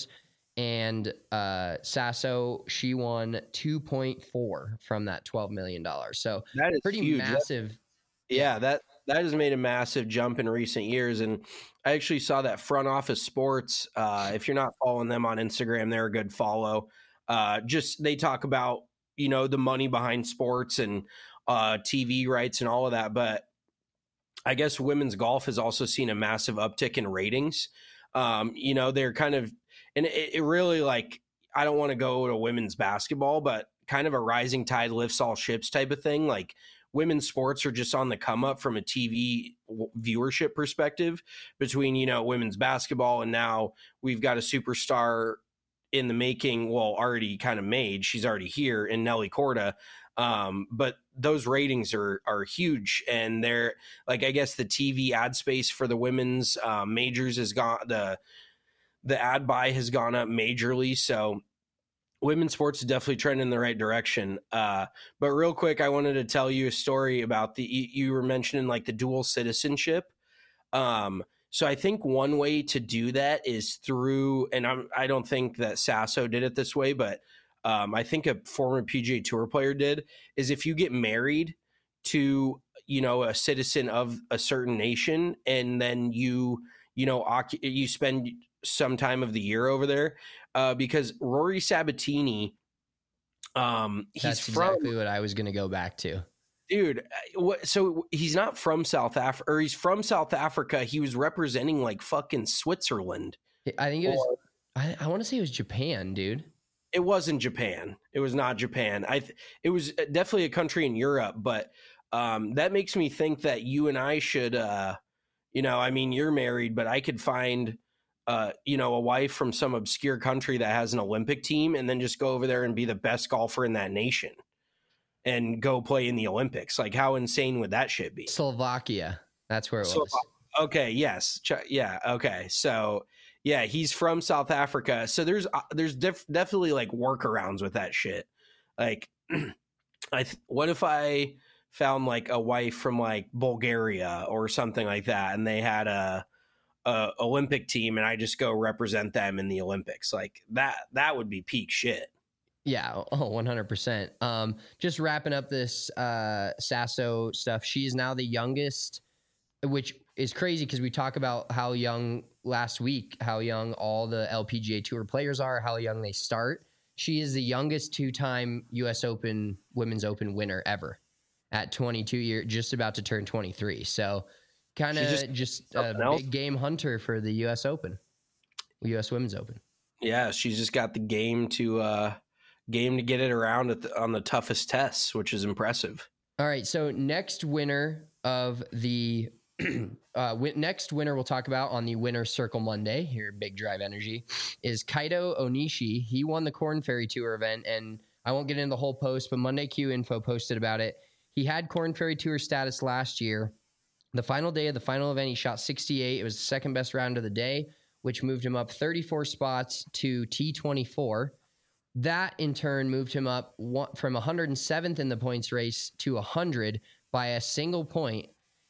And Sasso, she won 2.4 from that $12 million. So that is pretty huge. Massive. That has made a massive jump in recent years. And I actually saw that Front Office Sports. If you're not following them on Instagram, they're a good follow. They talk about, the money behind sports and TV rights and all of that. But I guess women's golf has also seen a massive uptick in ratings. They're kind of, and it really, like, I don't want to go to women's basketball, but kind of a rising tide lifts all ships type of thing. Like, women's sports are just on the come up from a TV viewership perspective between, women's basketball. And now we've got a superstar in the making. Well, already kind of made, she's already here in Nelly Korda. But those ratings are huge, and they're like, I guess the TV ad space for the women's majors has gone, the ad buy has gone up majorly. So women's sports is definitely trending in the right direction. But real quick, I wanted to tell you a story about you were mentioning like the dual citizenship. So I think one way to do that is through, and I don't think that Sasso did it this way, but I think a former PGA Tour player did, is if you get married to, a citizen of a certain nation, and then you spend some time of the year over there, because Rory Sabatini, that's exactly what I was going to go back to. Dude, so he's not from South Africa, or he's from South Africa. He was representing like fucking Switzerland. I think it was, I want to say it was Japan, dude. It wasn't Japan. It was not Japan. It was definitely a country in Europe, but that makes me think that you and I should, you're married, but I could find, a wife from some obscure country that has an Olympic team, and then just go over there and be the best golfer in that nation and go play in the Olympics. Like, how insane would that shit be? Slovakia. That's where it was. Okay. Yes. Yeah. Okay. So, yeah, he's from South Africa. So there's definitely like workarounds with that shit. Like, what if I found like a wife from like Bulgaria or something like that, and they had a Olympic team, and I just go represent them in the Olympics? Like, that would be peak shit. Yeah. Oh, 100%. Just wrapping up this Sasso stuff. She is now the youngest, which is crazy because we talk about how young last week, how young all the LPGA Tour players are, how young they start. She is the youngest two-time U.S. Open Women's Open winner ever at 22 years, just about to turn 23. So kind of just a big game hunter for the U.S. Open, U.S. Women's Open. Yeah, she's just got the game to get it around on the toughest tests, which is impressive. All right, so next winner of the next winner we'll talk about on the Winner's Circle Monday here at Big Drive Energy is Kaito Onishi. He won the Korn Ferry Tour event, and I won't get into the whole post, but Monday Q Info posted about it. He had Korn Ferry Tour status last year. The final day of the final event, he shot 68. It was the second best round of the day, which moved him up 34 spots to T24. That, in turn, moved him up from 107th in the points race to 100 by a single point.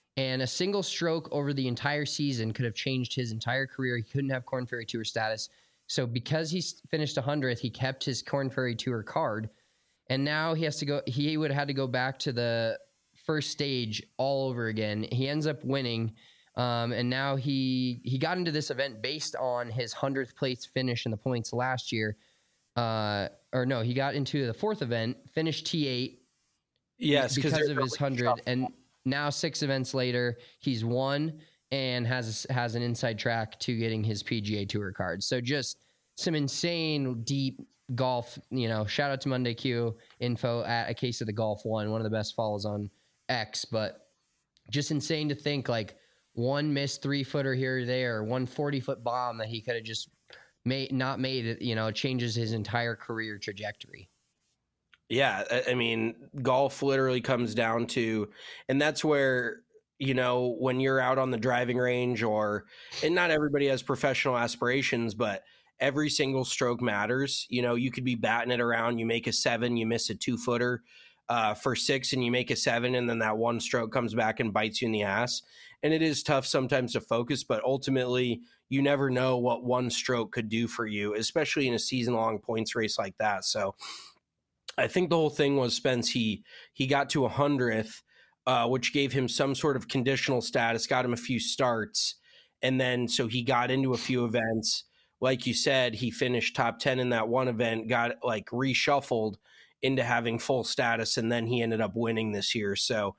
And a single stroke over the entire season could have changed his entire career. He couldn't have Korn Ferry Tour status. So because he finished 100th, he kept his Korn Ferry Tour card. And now he would have had to go back to the first stage all over again. He ends up winning. And now he got into this event based on his 100th place finish in the points last year. He got into the fourth event, finished T8. Yes, because of his 100. And now 6 events later, he's won and has an inside track to getting his PGA Tour card. So just some insane deep golf, shout out to Monday Q info at A Case of the Golf one of the best follows on X, but just insane to think like one missed 3-footer here or there, one 40-foot bomb that he could have just not made it, changes his entire career trajectory. Yeah. I mean, golf literally comes down to, and that's where, when you're out on the driving range and not everybody has professional aspirations, but every single stroke matters. You could be batting it around, you make a 7, you miss a 2-footer for 6 and you make a 7, and then that one stroke comes back and bites you in the ass. And it is tough sometimes to focus, but ultimately you never know what one stroke could do for you, especially in a season-long points race like that. So I think the whole thing was Spence, he got to 100th, which gave him some sort of conditional status, got him a few starts. And then, so he got into a few events. Like you said, he finished top 10 in that one event, got like reshuffled into having full status. And then he ended up winning this year. So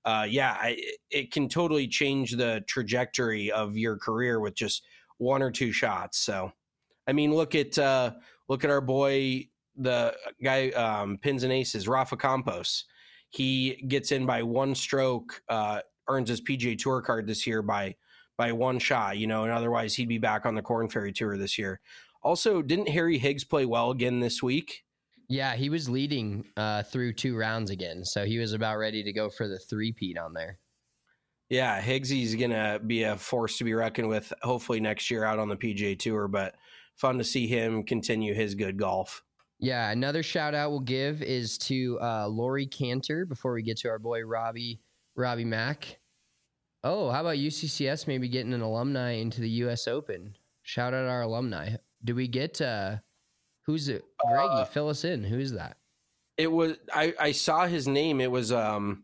it can totally change the trajectory of your career with just 1 or 2 shots. So, I mean, look at our boy, the guy, Pins and Aces, Rafa Campos. He gets in by 1 stroke, earns his PGA Tour card this year by 1 shot, and otherwise he'd be back on the Korn Ferry Tour this year. Also, didn't Harry Higgs play well again this week? Yeah, he was leading through 2 rounds again, so he was about ready to go for the 3-peat on there. Yeah, Higgsy's going to be a force to be reckoned with, hopefully next year out on the PGA Tour, but fun to see him continue his good golf. Yeah, another shout out we'll give is to Laurie Cantor before we get to our boy Robbie Mack. Oh, how about UCCS maybe getting an alumni into the U.S. Open? Shout out our alumni. Do we get who's it? Greggy, fill us in. Who is that? It was I saw his name. It was God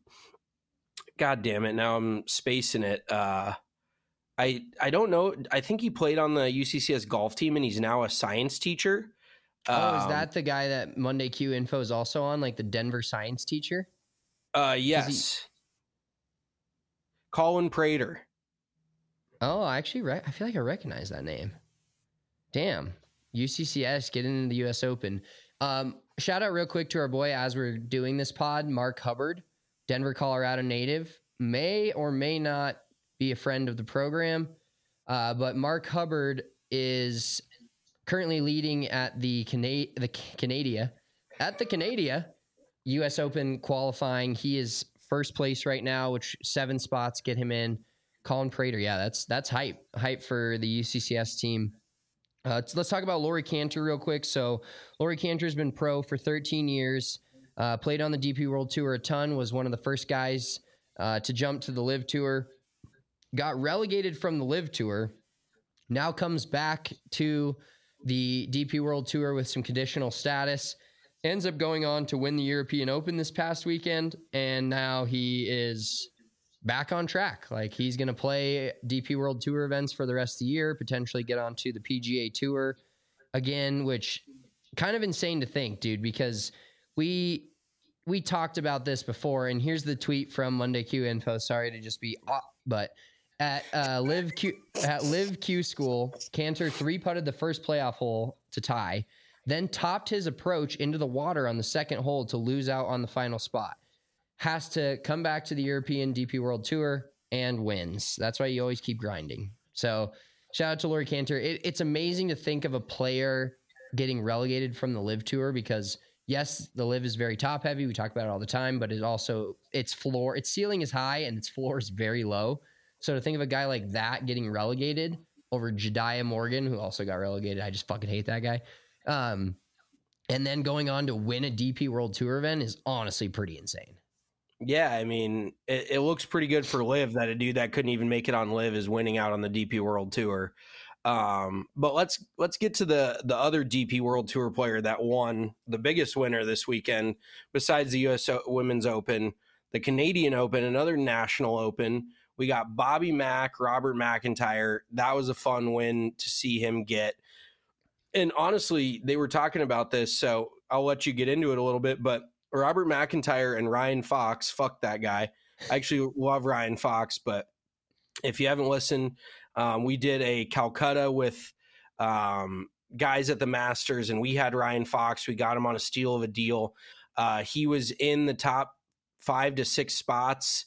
damn it. Now I'm spacing it. I don't know. I think he played on the UCCS golf team and he's now a science teacher. Is that the guy that Monday Q info is also on, like the Denver science teacher? Yes. Colin Prater. Oh, actually, I feel like I recognize that name. Damn. UCCS getting into the U.S. Open. Shout out real quick to our boy as we're doing this pod, Mark Hubbard, Denver, Colorado native, may or may not be a friend of the program, but Mark Hubbard is currently leading at the Canada U.S. Open qualifying. He is first place right now, which 7 spots get him in. Colin Prater, yeah, that's hype for the UCCS team. Let's talk about Laurie Cantor real quick. So Laurie Cantor has been pro for 13 years, played on the DP World Tour a ton, was one of the first guys to jump to the LIV Tour, got relegated from the LIV Tour, now comes back to the DP World Tour with some conditional status, ends up going on to win the European Open this past weekend, and now he is back on track. Like, he's going to play DP World Tour events for the rest of the year, potentially get onto the PGA Tour again, which kind of insane to think, dude, because we talked about this before, and here's the tweet from Monday Q info. Sorry to just be but at Live Q School, Cantor 3-putted the first playoff hole to tie, then topped his approach into the water on the second hole to lose out on the final spot. Has to come back to the European DP World Tour and wins. That's why you always keep grinding. So shout out to Laurie Cantor. It's amazing to think of a player getting relegated from the LIV Tour because, yes, the LIV is very top heavy. We talk about it all the time, but its ceiling is high and its floor is very low. So to think of a guy like that getting relegated over Jediah Morgan, who also got relegated, I just fucking hate that guy. And then going on to win a DP World Tour event is honestly pretty insane. Yeah, I mean, it looks pretty good for Liv that a dude that couldn't even make it on Liv is winning out on the DP World Tour. But let's get to the other DP World Tour player that won, the biggest winner this weekend, besides the U.S. Women's Open, the Canadian Open, another national open. We got Bobby Mack, Robert McIntyre. That was a fun win to see him get. And honestly, they were talking about this, so I'll let you get into it a little bit, but Robert McIntyre and Ryan Fox, fuck that guy. I actually love Ryan Fox, but if you haven't listened, we did a Calcutta with guys at the Masters, and we had Ryan Fox. We got him on a steal of a deal. He was in the top 5 to 6 spots.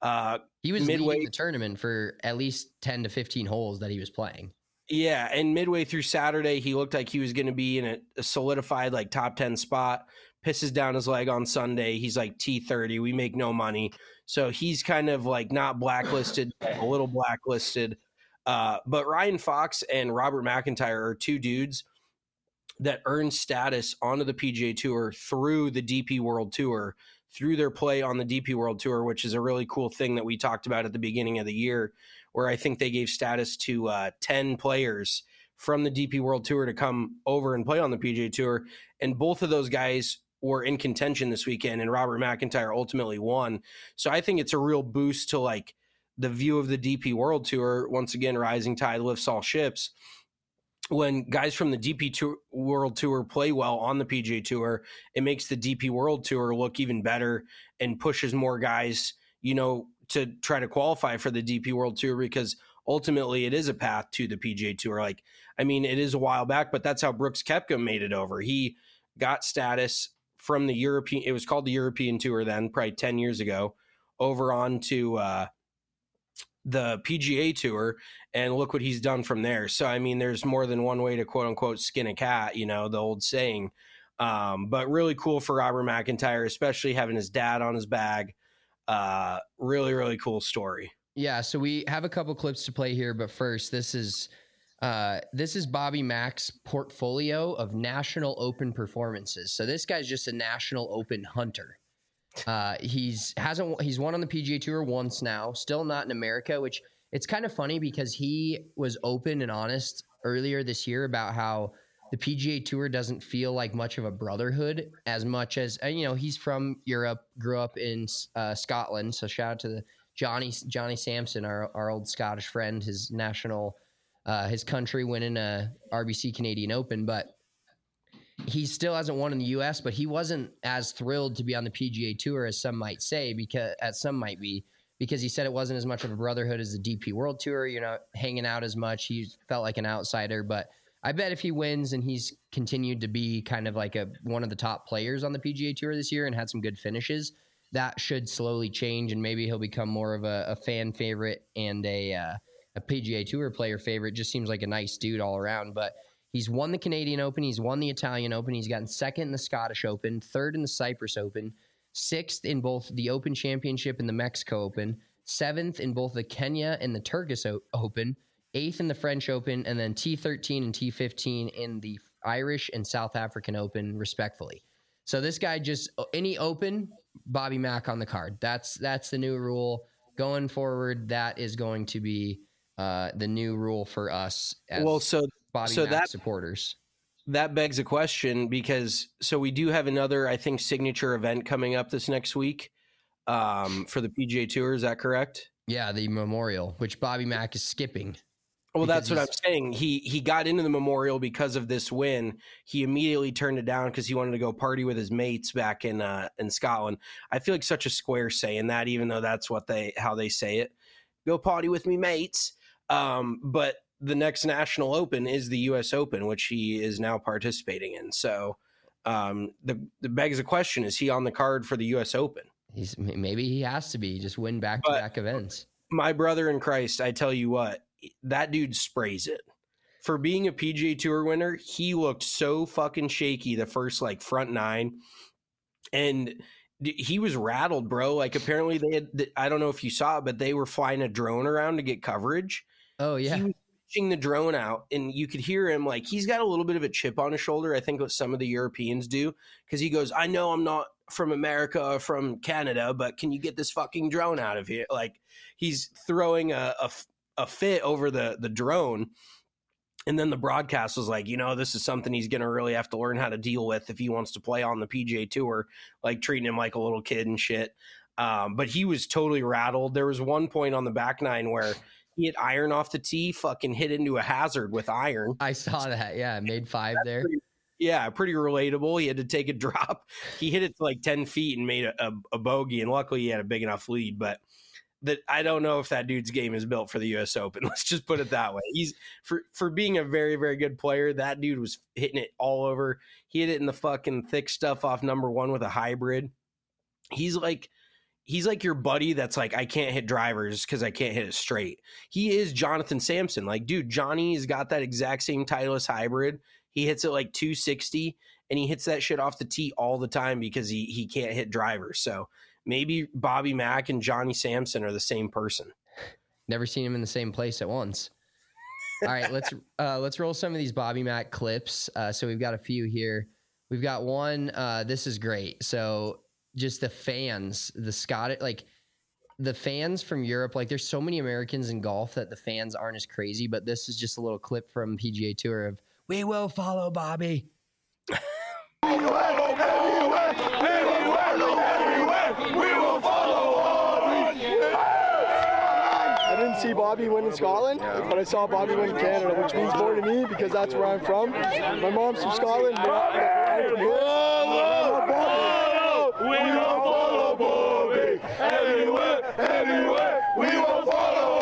He was leading the tournament for at least 10 to 15 holes that he was playing. Yeah, and midway through Saturday, he looked like he was going to be in a solidified like top 10 spot. Pisses down his leg on Sunday. He's like T30. We make no money. So he's kind of like not blacklisted, a little blacklisted. But Ryan Fox and Robert McIntyre are two dudes that earn status onto the PGA Tour through the DP World Tour, through their play on the DP World Tour, which is a really cool thing that we talked about at the beginning of the year, where I think they gave status to 10 players from the DP World Tour to come over and play on the PGA Tour. And both of those guys were in contention this weekend, and Robert McIntyre ultimately won. So I think it's a real boost to like the view of the DP World Tour. Once again, rising tide lifts all ships. When guys from the DP World Tour play well on the PGA Tour, it makes the DP World Tour look even better and pushes more guys, to try to qualify for the DP World Tour, because ultimately it is a path to the PGA Tour. Like, I mean, it is a while back, but that's how Brooks Koepka made it over. He got status from the European, it was called the European Tour then, probably 10 years ago, over onto the PGA Tour, and look what he's done from there. So, I mean, there's more than one way to quote unquote skin a cat, the old saying. But really cool for Robert McIntyre, especially having his dad on his bag. Really, really cool story. Yeah, so we have a couple clips to play here, but first, this is Bobby Mack's portfolio of National Open performances. So this guy's just a National Open hunter. He's won on the PGA Tour once now, still not in America, which it's kind of funny because he was open and honest earlier this year about how the PGA Tour doesn't feel like much of a brotherhood as much as, he's from Europe, grew up in Scotland. So shout out to Johnny Sampson, our old Scottish friend, his country winning a RBC Canadian Open, but he still hasn't won in the U.S., but he wasn't as thrilled to be on the PGA Tour as some might say, because he said it wasn't as much of a brotherhood as the DP World Tour. You're not hanging out as much. He felt like an outsider, but I bet if he wins and he's continued to be kind of like one of the top players on the PGA Tour this year and had some good finishes, that should slowly change, and maybe he'll become more of a fan favorite and a PGA Tour player favorite. Just seems like a nice dude all around. But he's won the Canadian Open, he's won the Italian Open, he's gotten second in the Scottish Open, third in the Cyprus Open, sixth in both the Open Championship and the Mexico Open, seventh in both the Kenya and the Turkish Open, eighth in the French Open, and then T13 and T15 in the Irish and South African Open, respectfully. So this guy just, any Open, Bobby Mack on the card. That's the new rule. Going forward, that is going to be the new rule for us as Bobby Mack supporters. That begs a question, because we do have another, I think, signature event coming up this next week for the PGA Tour. Is that correct? Yeah, the Memorial, which Bobby Mack is skipping. Well, that's what I'm saying. He got into the Memorial because of this win. He immediately turned it down because he wanted to go party with his mates back in Scotland. I feel like such a square saying that, even though that's how they say it. Go party with me mates. But the next National Open is the U.S. Open, which he is now participating in. So the begs the question, is he on the card for the U.S. Open? Maybe he has to be, just win back-to-back events. My brother in Christ, I tell you what, that dude sprays it. For being a PGA Tour winner, he looked so fucking shaky the first front nine, and he was rattled, bro. Like, apparently they had, I don't know if you saw it, but they were flying a drone around to get coverage. Oh yeah. He was pitching the drone out, and you could hear him, he's got a little bit of a chip on his shoulder. I think what some of the Europeans do, because he goes, I know I'm not from America or from Canada, but can you get this fucking drone out of here? Like, he's throwing a fit over the drone. And then the broadcast was like, this is something he's going to really have to learn how to deal with if he wants to play on the PGA Tour, like treating him like a little kid and shit. But he was totally rattled. There was one point on the back nine where he hit iron off the tee, fucking hit into a hazard with iron. I saw that. Yeah, made 5 there. Pretty relatable. He had to take a drop. He hit it to like 10 feet and made a bogey, and luckily he had a big enough lead. But I don't know if that dude's game is built for the U.S. Open. Let's just put it that way. He's for being a very, very good player. That dude was hitting it all over. He hit it in the fucking thick stuff off number 1 with a hybrid. He's like your buddy that's like, I can't hit drivers because I can't hit it straight. He is Jonathan Sampson. Like, dude, Johnny's got that exact same Titleist hybrid. He hits it like 260, and he hits that shit off the tee all the time because he can't hit drivers. So maybe Bobby Mack and Johnny Sampson are the same person. Never seen him in the same place at once. All right, let's roll some of these Bobby Mack clips. So we've got a few here. We've got one. This is great. So just the fans, the fans from Europe, like there's so many Americans in golf that the fans aren't as crazy, but this is just a little clip from PGA Tour of, we will follow Bobby. We will follow Bobby. I didn't see Bobby win in Scotland, but I saw Bobby win in Canada, which means more to me because that's where I'm from. My mom's from Scotland. I'm from here. We will follow Bobby. Anywhere, we will follow.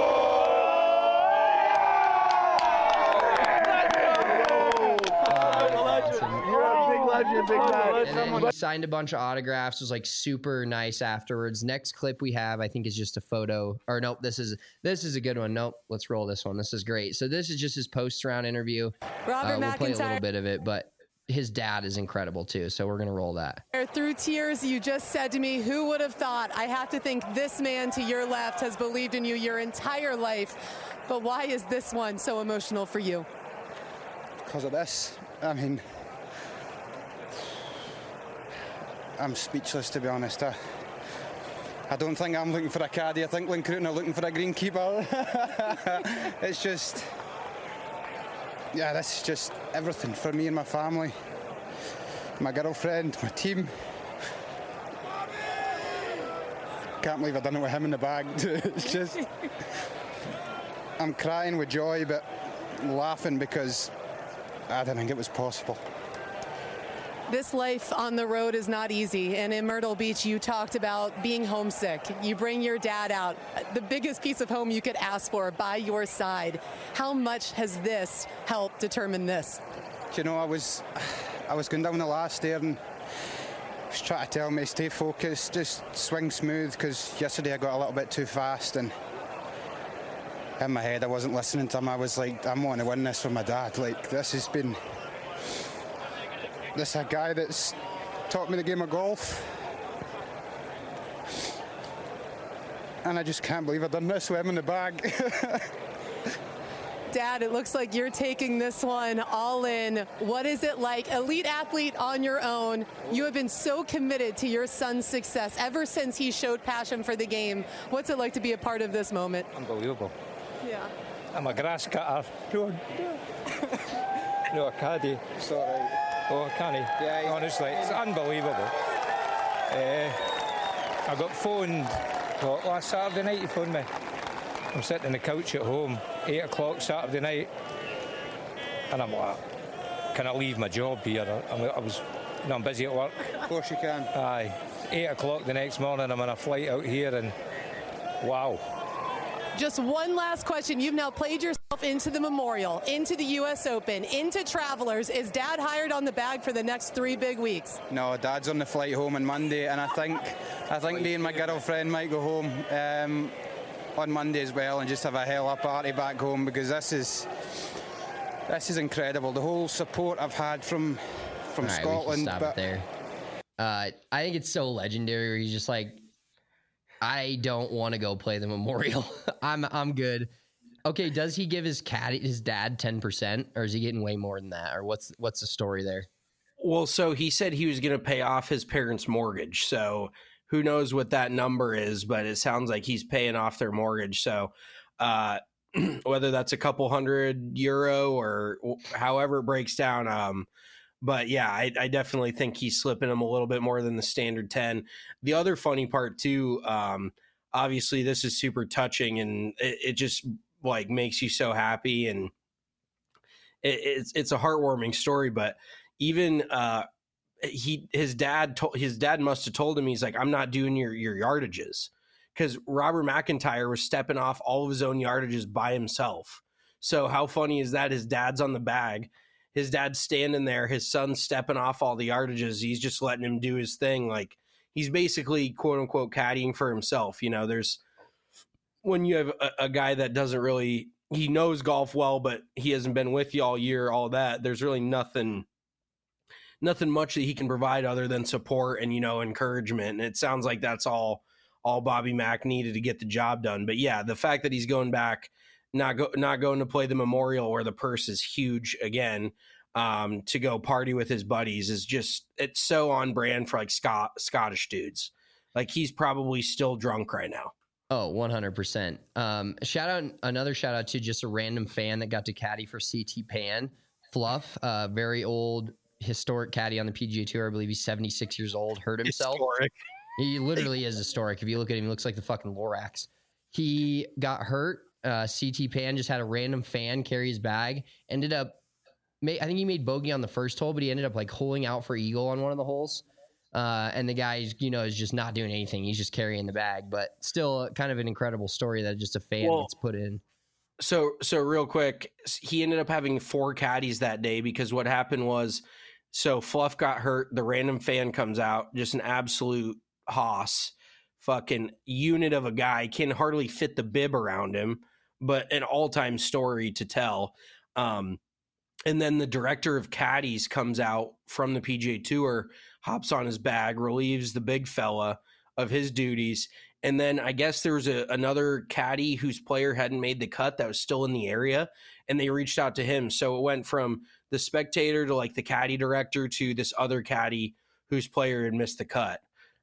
And then he signed a bunch of autographs. It was like super nice afterwards. Next clip we have, I think, is just a photo. Or nope, this is a good one. Nope, let's roll this one. This is great. So this is just his post-round interview. Robert we'll play a McIntyre. little bit of it, but his dad is incredible too. So we're gonna roll that. Through tears, you just said to me, who would have thought? I have to think this man to your left has believed in you your entire life. But why is this one so emotional for you? Because of this. I mean, I'm speechless, to be honest. I don't think I'm looking for a caddy. I think Lynn Cruton are looking for a greenkeeper. It's just, yeah, this is just everything for me and my family, my girlfriend, my team. Can't believe I've done it with him in the bag. It's just, I'm crying with joy, but laughing because I didn't think it was possible. This life on the road is not easy, and in Myrtle Beach, you talked about being homesick. You bring your dad out, the biggest piece of home you could ask for, by your side. How much has this helped determine this? You know, I was going down the last there and was trying to tell me, stay focused, just swing smooth, because yesterday I got a little bit too fast, and in my head I wasn't listening to him. I was like, I'm wanting to win this for my dad. Like, this has been... This is a guy that's taught me the game of golf. And I just can't believe I've done this with him in the bag. Dad, it looks like you're taking this one all in. What is it like? Elite athlete on your own. You have been so committed to your son's success ever since he showed passion for the game. What's it like to be a part of this moment? Unbelievable. Yeah. I'm a grass cutter. No, a caddy. Sorry. Oh, can he? Yeah, honestly, it's unbelievable. I got phoned last Saturday night. He phoned me. I'm sitting on the couch at home, 8 o'clock Saturday night, and I'm like, can I leave my job here? I'm busy at work. Of course you can. Aye. 8 o'clock the next morning, I'm on a flight out here, and wow. Just one last question. You've now played yourself into the Memorial, into the U.S. Open, into Travelers. Is Dad hired on the bag for the next 3 big weeks? No, Dad's on the flight home on Monday, and I think me and my girlfriend might go home on Monday as well and just have a hell of a party back home, because this is incredible. The whole support I've had from right, Scotland. We can stop it there. I think it's so legendary where he's just like, I don't want to go play the Memorial. I'm good. Okay, does he give his dad 10%, or is he getting way more than that, or what's the story there? Well, so he said he was going to pay off his parents' mortgage. So who knows what that number is, but it sounds like he's paying off their mortgage. So whether that's a couple €100 or however it breaks down. But yeah, I definitely think he's slipping him a little bit more than the standard 10. The other funny part too, obviously this is super touching, and it just like makes you so happy, and it's a heartwarming story. But even his dad must have told him, he's like, I'm not doing your yardages, because Robert McIntyre was stepping off all of his own yardages by himself. So how funny is that? His dad's on the bag, his dad's standing there, his son's stepping off all the yardages, he's just letting him do his thing. Like, he's basically quote unquote caddying for himself. You know, there's when you have a guy that doesn't really, he knows golf well, but he hasn't been with you all year, all that, there's really nothing much that he can provide other than support and, you know, encouragement. And it sounds like that's all Bobby Mack needed to get the job done. But yeah, the fact that he's going back, not going to play the Memorial where the purse is huge again, to go party with his buddies is just, it's so on brand for like Scottish dudes. Like, he's probably still drunk right now. Oh, 100%. Another shout out to just a random fan that got to caddy for CT Pan, Fluff, very old historic caddy on the PGA Tour. I believe he's 76 years old, hurt himself. Historic. He literally is historic. If you look at him, he looks like the fucking Lorax. He got hurt. CT Pan just had a random fan carry his bag. Ended up, I think he made bogey on the first hole, but he ended up like holing out for eagle on one of the holes. And the guy, you know, is just not doing anything. He's just carrying the bag, but still kind of an incredible story that just a fan gets put in. So real quick, he ended up having 4 caddies that day, because what happened was, so Fluff got hurt. The random fan comes out, just an absolute hoss, fucking unit of a guy, can hardly fit the bib around him, but an all-time story to tell. And then the director of caddies comes out from the PGA Tour, hops on his bag, relieves the big fella of his duties. And then I guess there was another caddy whose player hadn't made the cut that was still in the area, and they reached out to him. So it went from the spectator to like the caddy director to this other caddy whose player had missed the cut.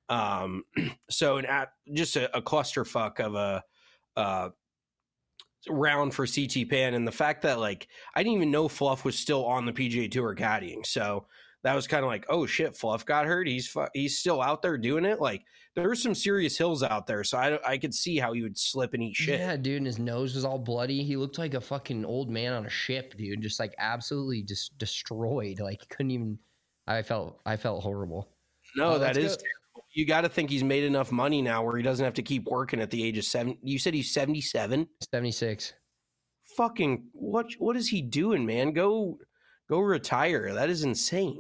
So just a clusterfuck of a round for CT Pan. And the fact that, like, I didn't even know Fluff was still on the PGA Tour caddying. So that was kind of like, oh shit, Fluff got hurt. He's still out there doing it. Like, there were some serious hills out there. So I could see how he would slip and eat shit. Yeah, dude. And his nose was all bloody. He looked like a fucking old man on a ship, dude. Just like absolutely just destroyed. Like, he couldn't even, I felt horrible. No, that is terrible. You got to think he's made enough money now where he doesn't have to keep working at the age of 7. You said he's 77? 76. Fucking, what is he doing, man? Go retire. That is insane.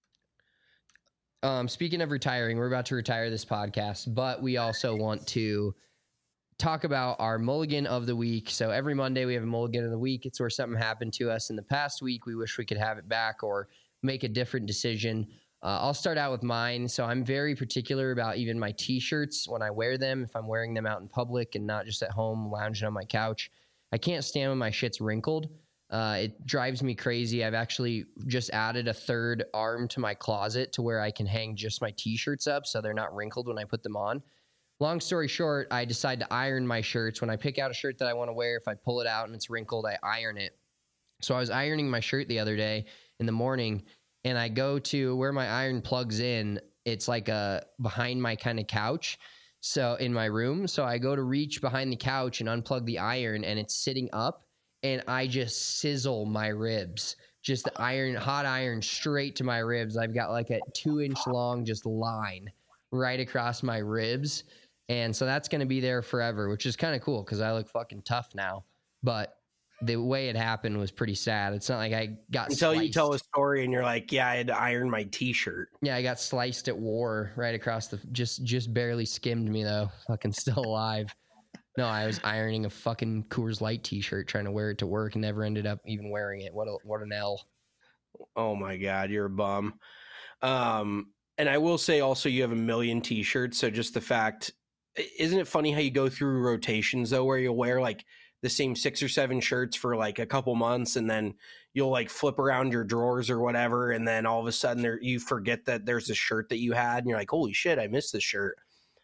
Speaking of retiring, we're about to retire this podcast, but we also want to talk about our mulligan of the week. So every Monday we have a mulligan of the week. It's where something happened to us in the past week. We wish we could have it back or make a different decision. I'll start out with mine. So I'm very particular about even my t-shirts when I wear them. If I'm wearing them out in public and not just at home lounging on my couch, I can't stand when my shit's wrinkled. It drives me crazy. I've actually just added a third arm to my closet to where I can hang just my t-shirts up so they're not wrinkled when I put them on. Long story short, I decide to iron my shirts. When I pick out a shirt that I want to wear, if I pull it out and it's wrinkled, I iron it. So I was ironing my shirt the other day in the morning, and I go to where my iron plugs in. It's like behind my kind of couch, so in my room. So I go to reach behind the couch and unplug the iron, and it's sitting up, and I just sizzle my ribs. Just the hot iron straight to my ribs. I've got like a 2-inch long just line right across my ribs. And so that's going to be there forever, which is kind of cool because I look fucking tough now. But the way it happened was pretty sad. It's not like I got until sliced. You tell a story and you're like, yeah, I had to iron my t-shirt. Yeah, I got sliced at war right across the, just barely skimmed me though. Fucking still alive. No, I was ironing a fucking Coors Light t-shirt trying to wear it to work and never ended up even wearing it. What an L. Oh my God, you're a bum. And I will say also you have a million t-shirts. So just the fact, isn't it funny how you go through rotations though, where you'll wear like the same 6 or 7 shirts for like a couple months, and then you'll like flip around your drawers or whatever, and then all of a sudden you forget that there's a shirt that you had, and you're like, holy shit, I missed this shirt.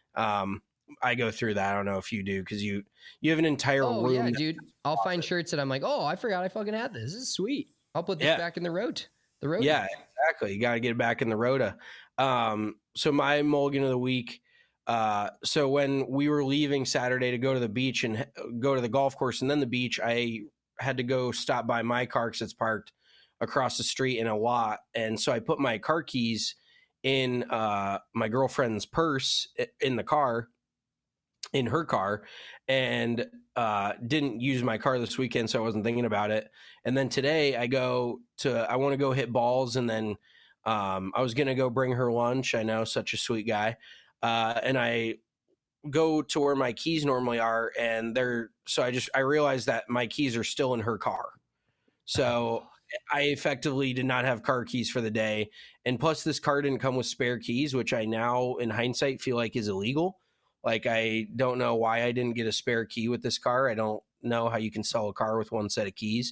I go through that. I don't know if you do, because you have an entire room. Yeah, dude. I'll find shirts that I'm like, oh, I forgot I fucking had this. This is sweet. I'll put this back in the road. Yeah, exactly. You got to get it back in the rota. So my mulligan of the week. So when we were leaving Saturday to go to the beach and go to the golf course and then the beach, I had to go stop by my car because it's parked across the street in a lot. And so I put my car keys in my girlfriend's purse in the car, in her car, and didn't use my car this weekend, so I wasn't thinking about it. And then today I want to go hit balls, and then I was going to go bring her lunch. I know, such a sweet guy. And I go to where my keys normally are, and I realized that my keys are still in her car. So I effectively did not have car keys for the day. And plus this car didn't come with spare keys, which I now in hindsight feel like is illegal. Like, I don't know why I didn't get a spare key with this car. I don't know how you can sell a car with one set of keys.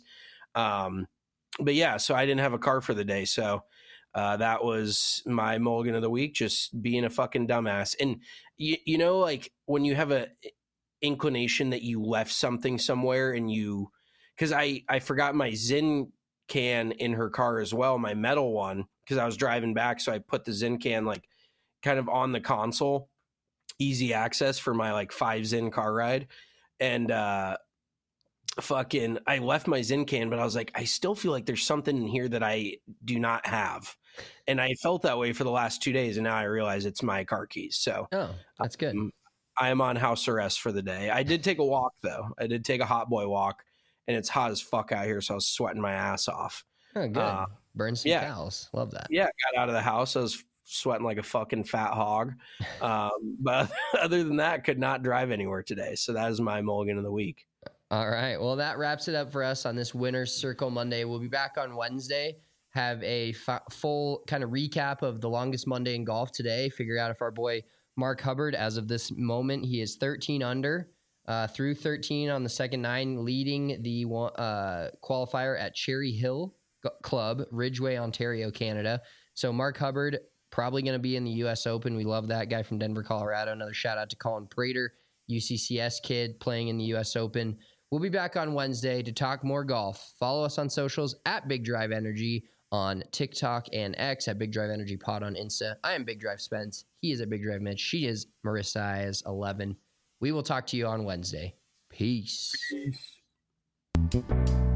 But yeah, so I didn't have a car for the day. So that was my mulligan of the week, just being a fucking dumbass. And you know, like when you have a inclination that you left something somewhere, and because I forgot my Zyn can in her car as well, my metal one, because I was driving back. So I put the Zyn can like kind of on the console, easy access for my like 5 Zyn car ride. And I left my Zyn can, but I was like, I still feel like there's something in here that I do not have. And I felt that way for the last 2 days, and now I realize it's my car keys. So that's good. I am on house arrest for the day. I did take a walk though. I did take a hot boy walk, and it's hot as fuck out here, so I was sweating my ass off. Oh, good. Burn some cows. Love that. Yeah, got out of the house. I was sweating like a fucking fat hog. But other than that, could not drive anywhere today. So that is my mulligan of the week. All right. Well, that wraps it up for us on this Winner's Circle Monday. We'll be back on Wednesday, have a full kind of recap of the longest Monday in golf today, figure out if our boy Mark Hubbard, as of this moment, he is 13 under through 13 on the second 9, leading the qualifier at Cherry Hill Club, Ridgeway, Ontario, Canada. So Mark Hubbard, probably going to be in the U.S. Open. We love that guy from Denver, Colorado. Another shout out to Colin Prater, UCCS kid playing in the U.S. Open. We'll be back on Wednesday to talk more golf. Follow us on socials at Big Drive Energy on TikTok and X, at Big Drive Energy Pod on Insta. I am Big Drive Spence. He is at Big Drive Mitch. She is Marissa is 11. We will talk to you on Wednesday. Peace. Peace.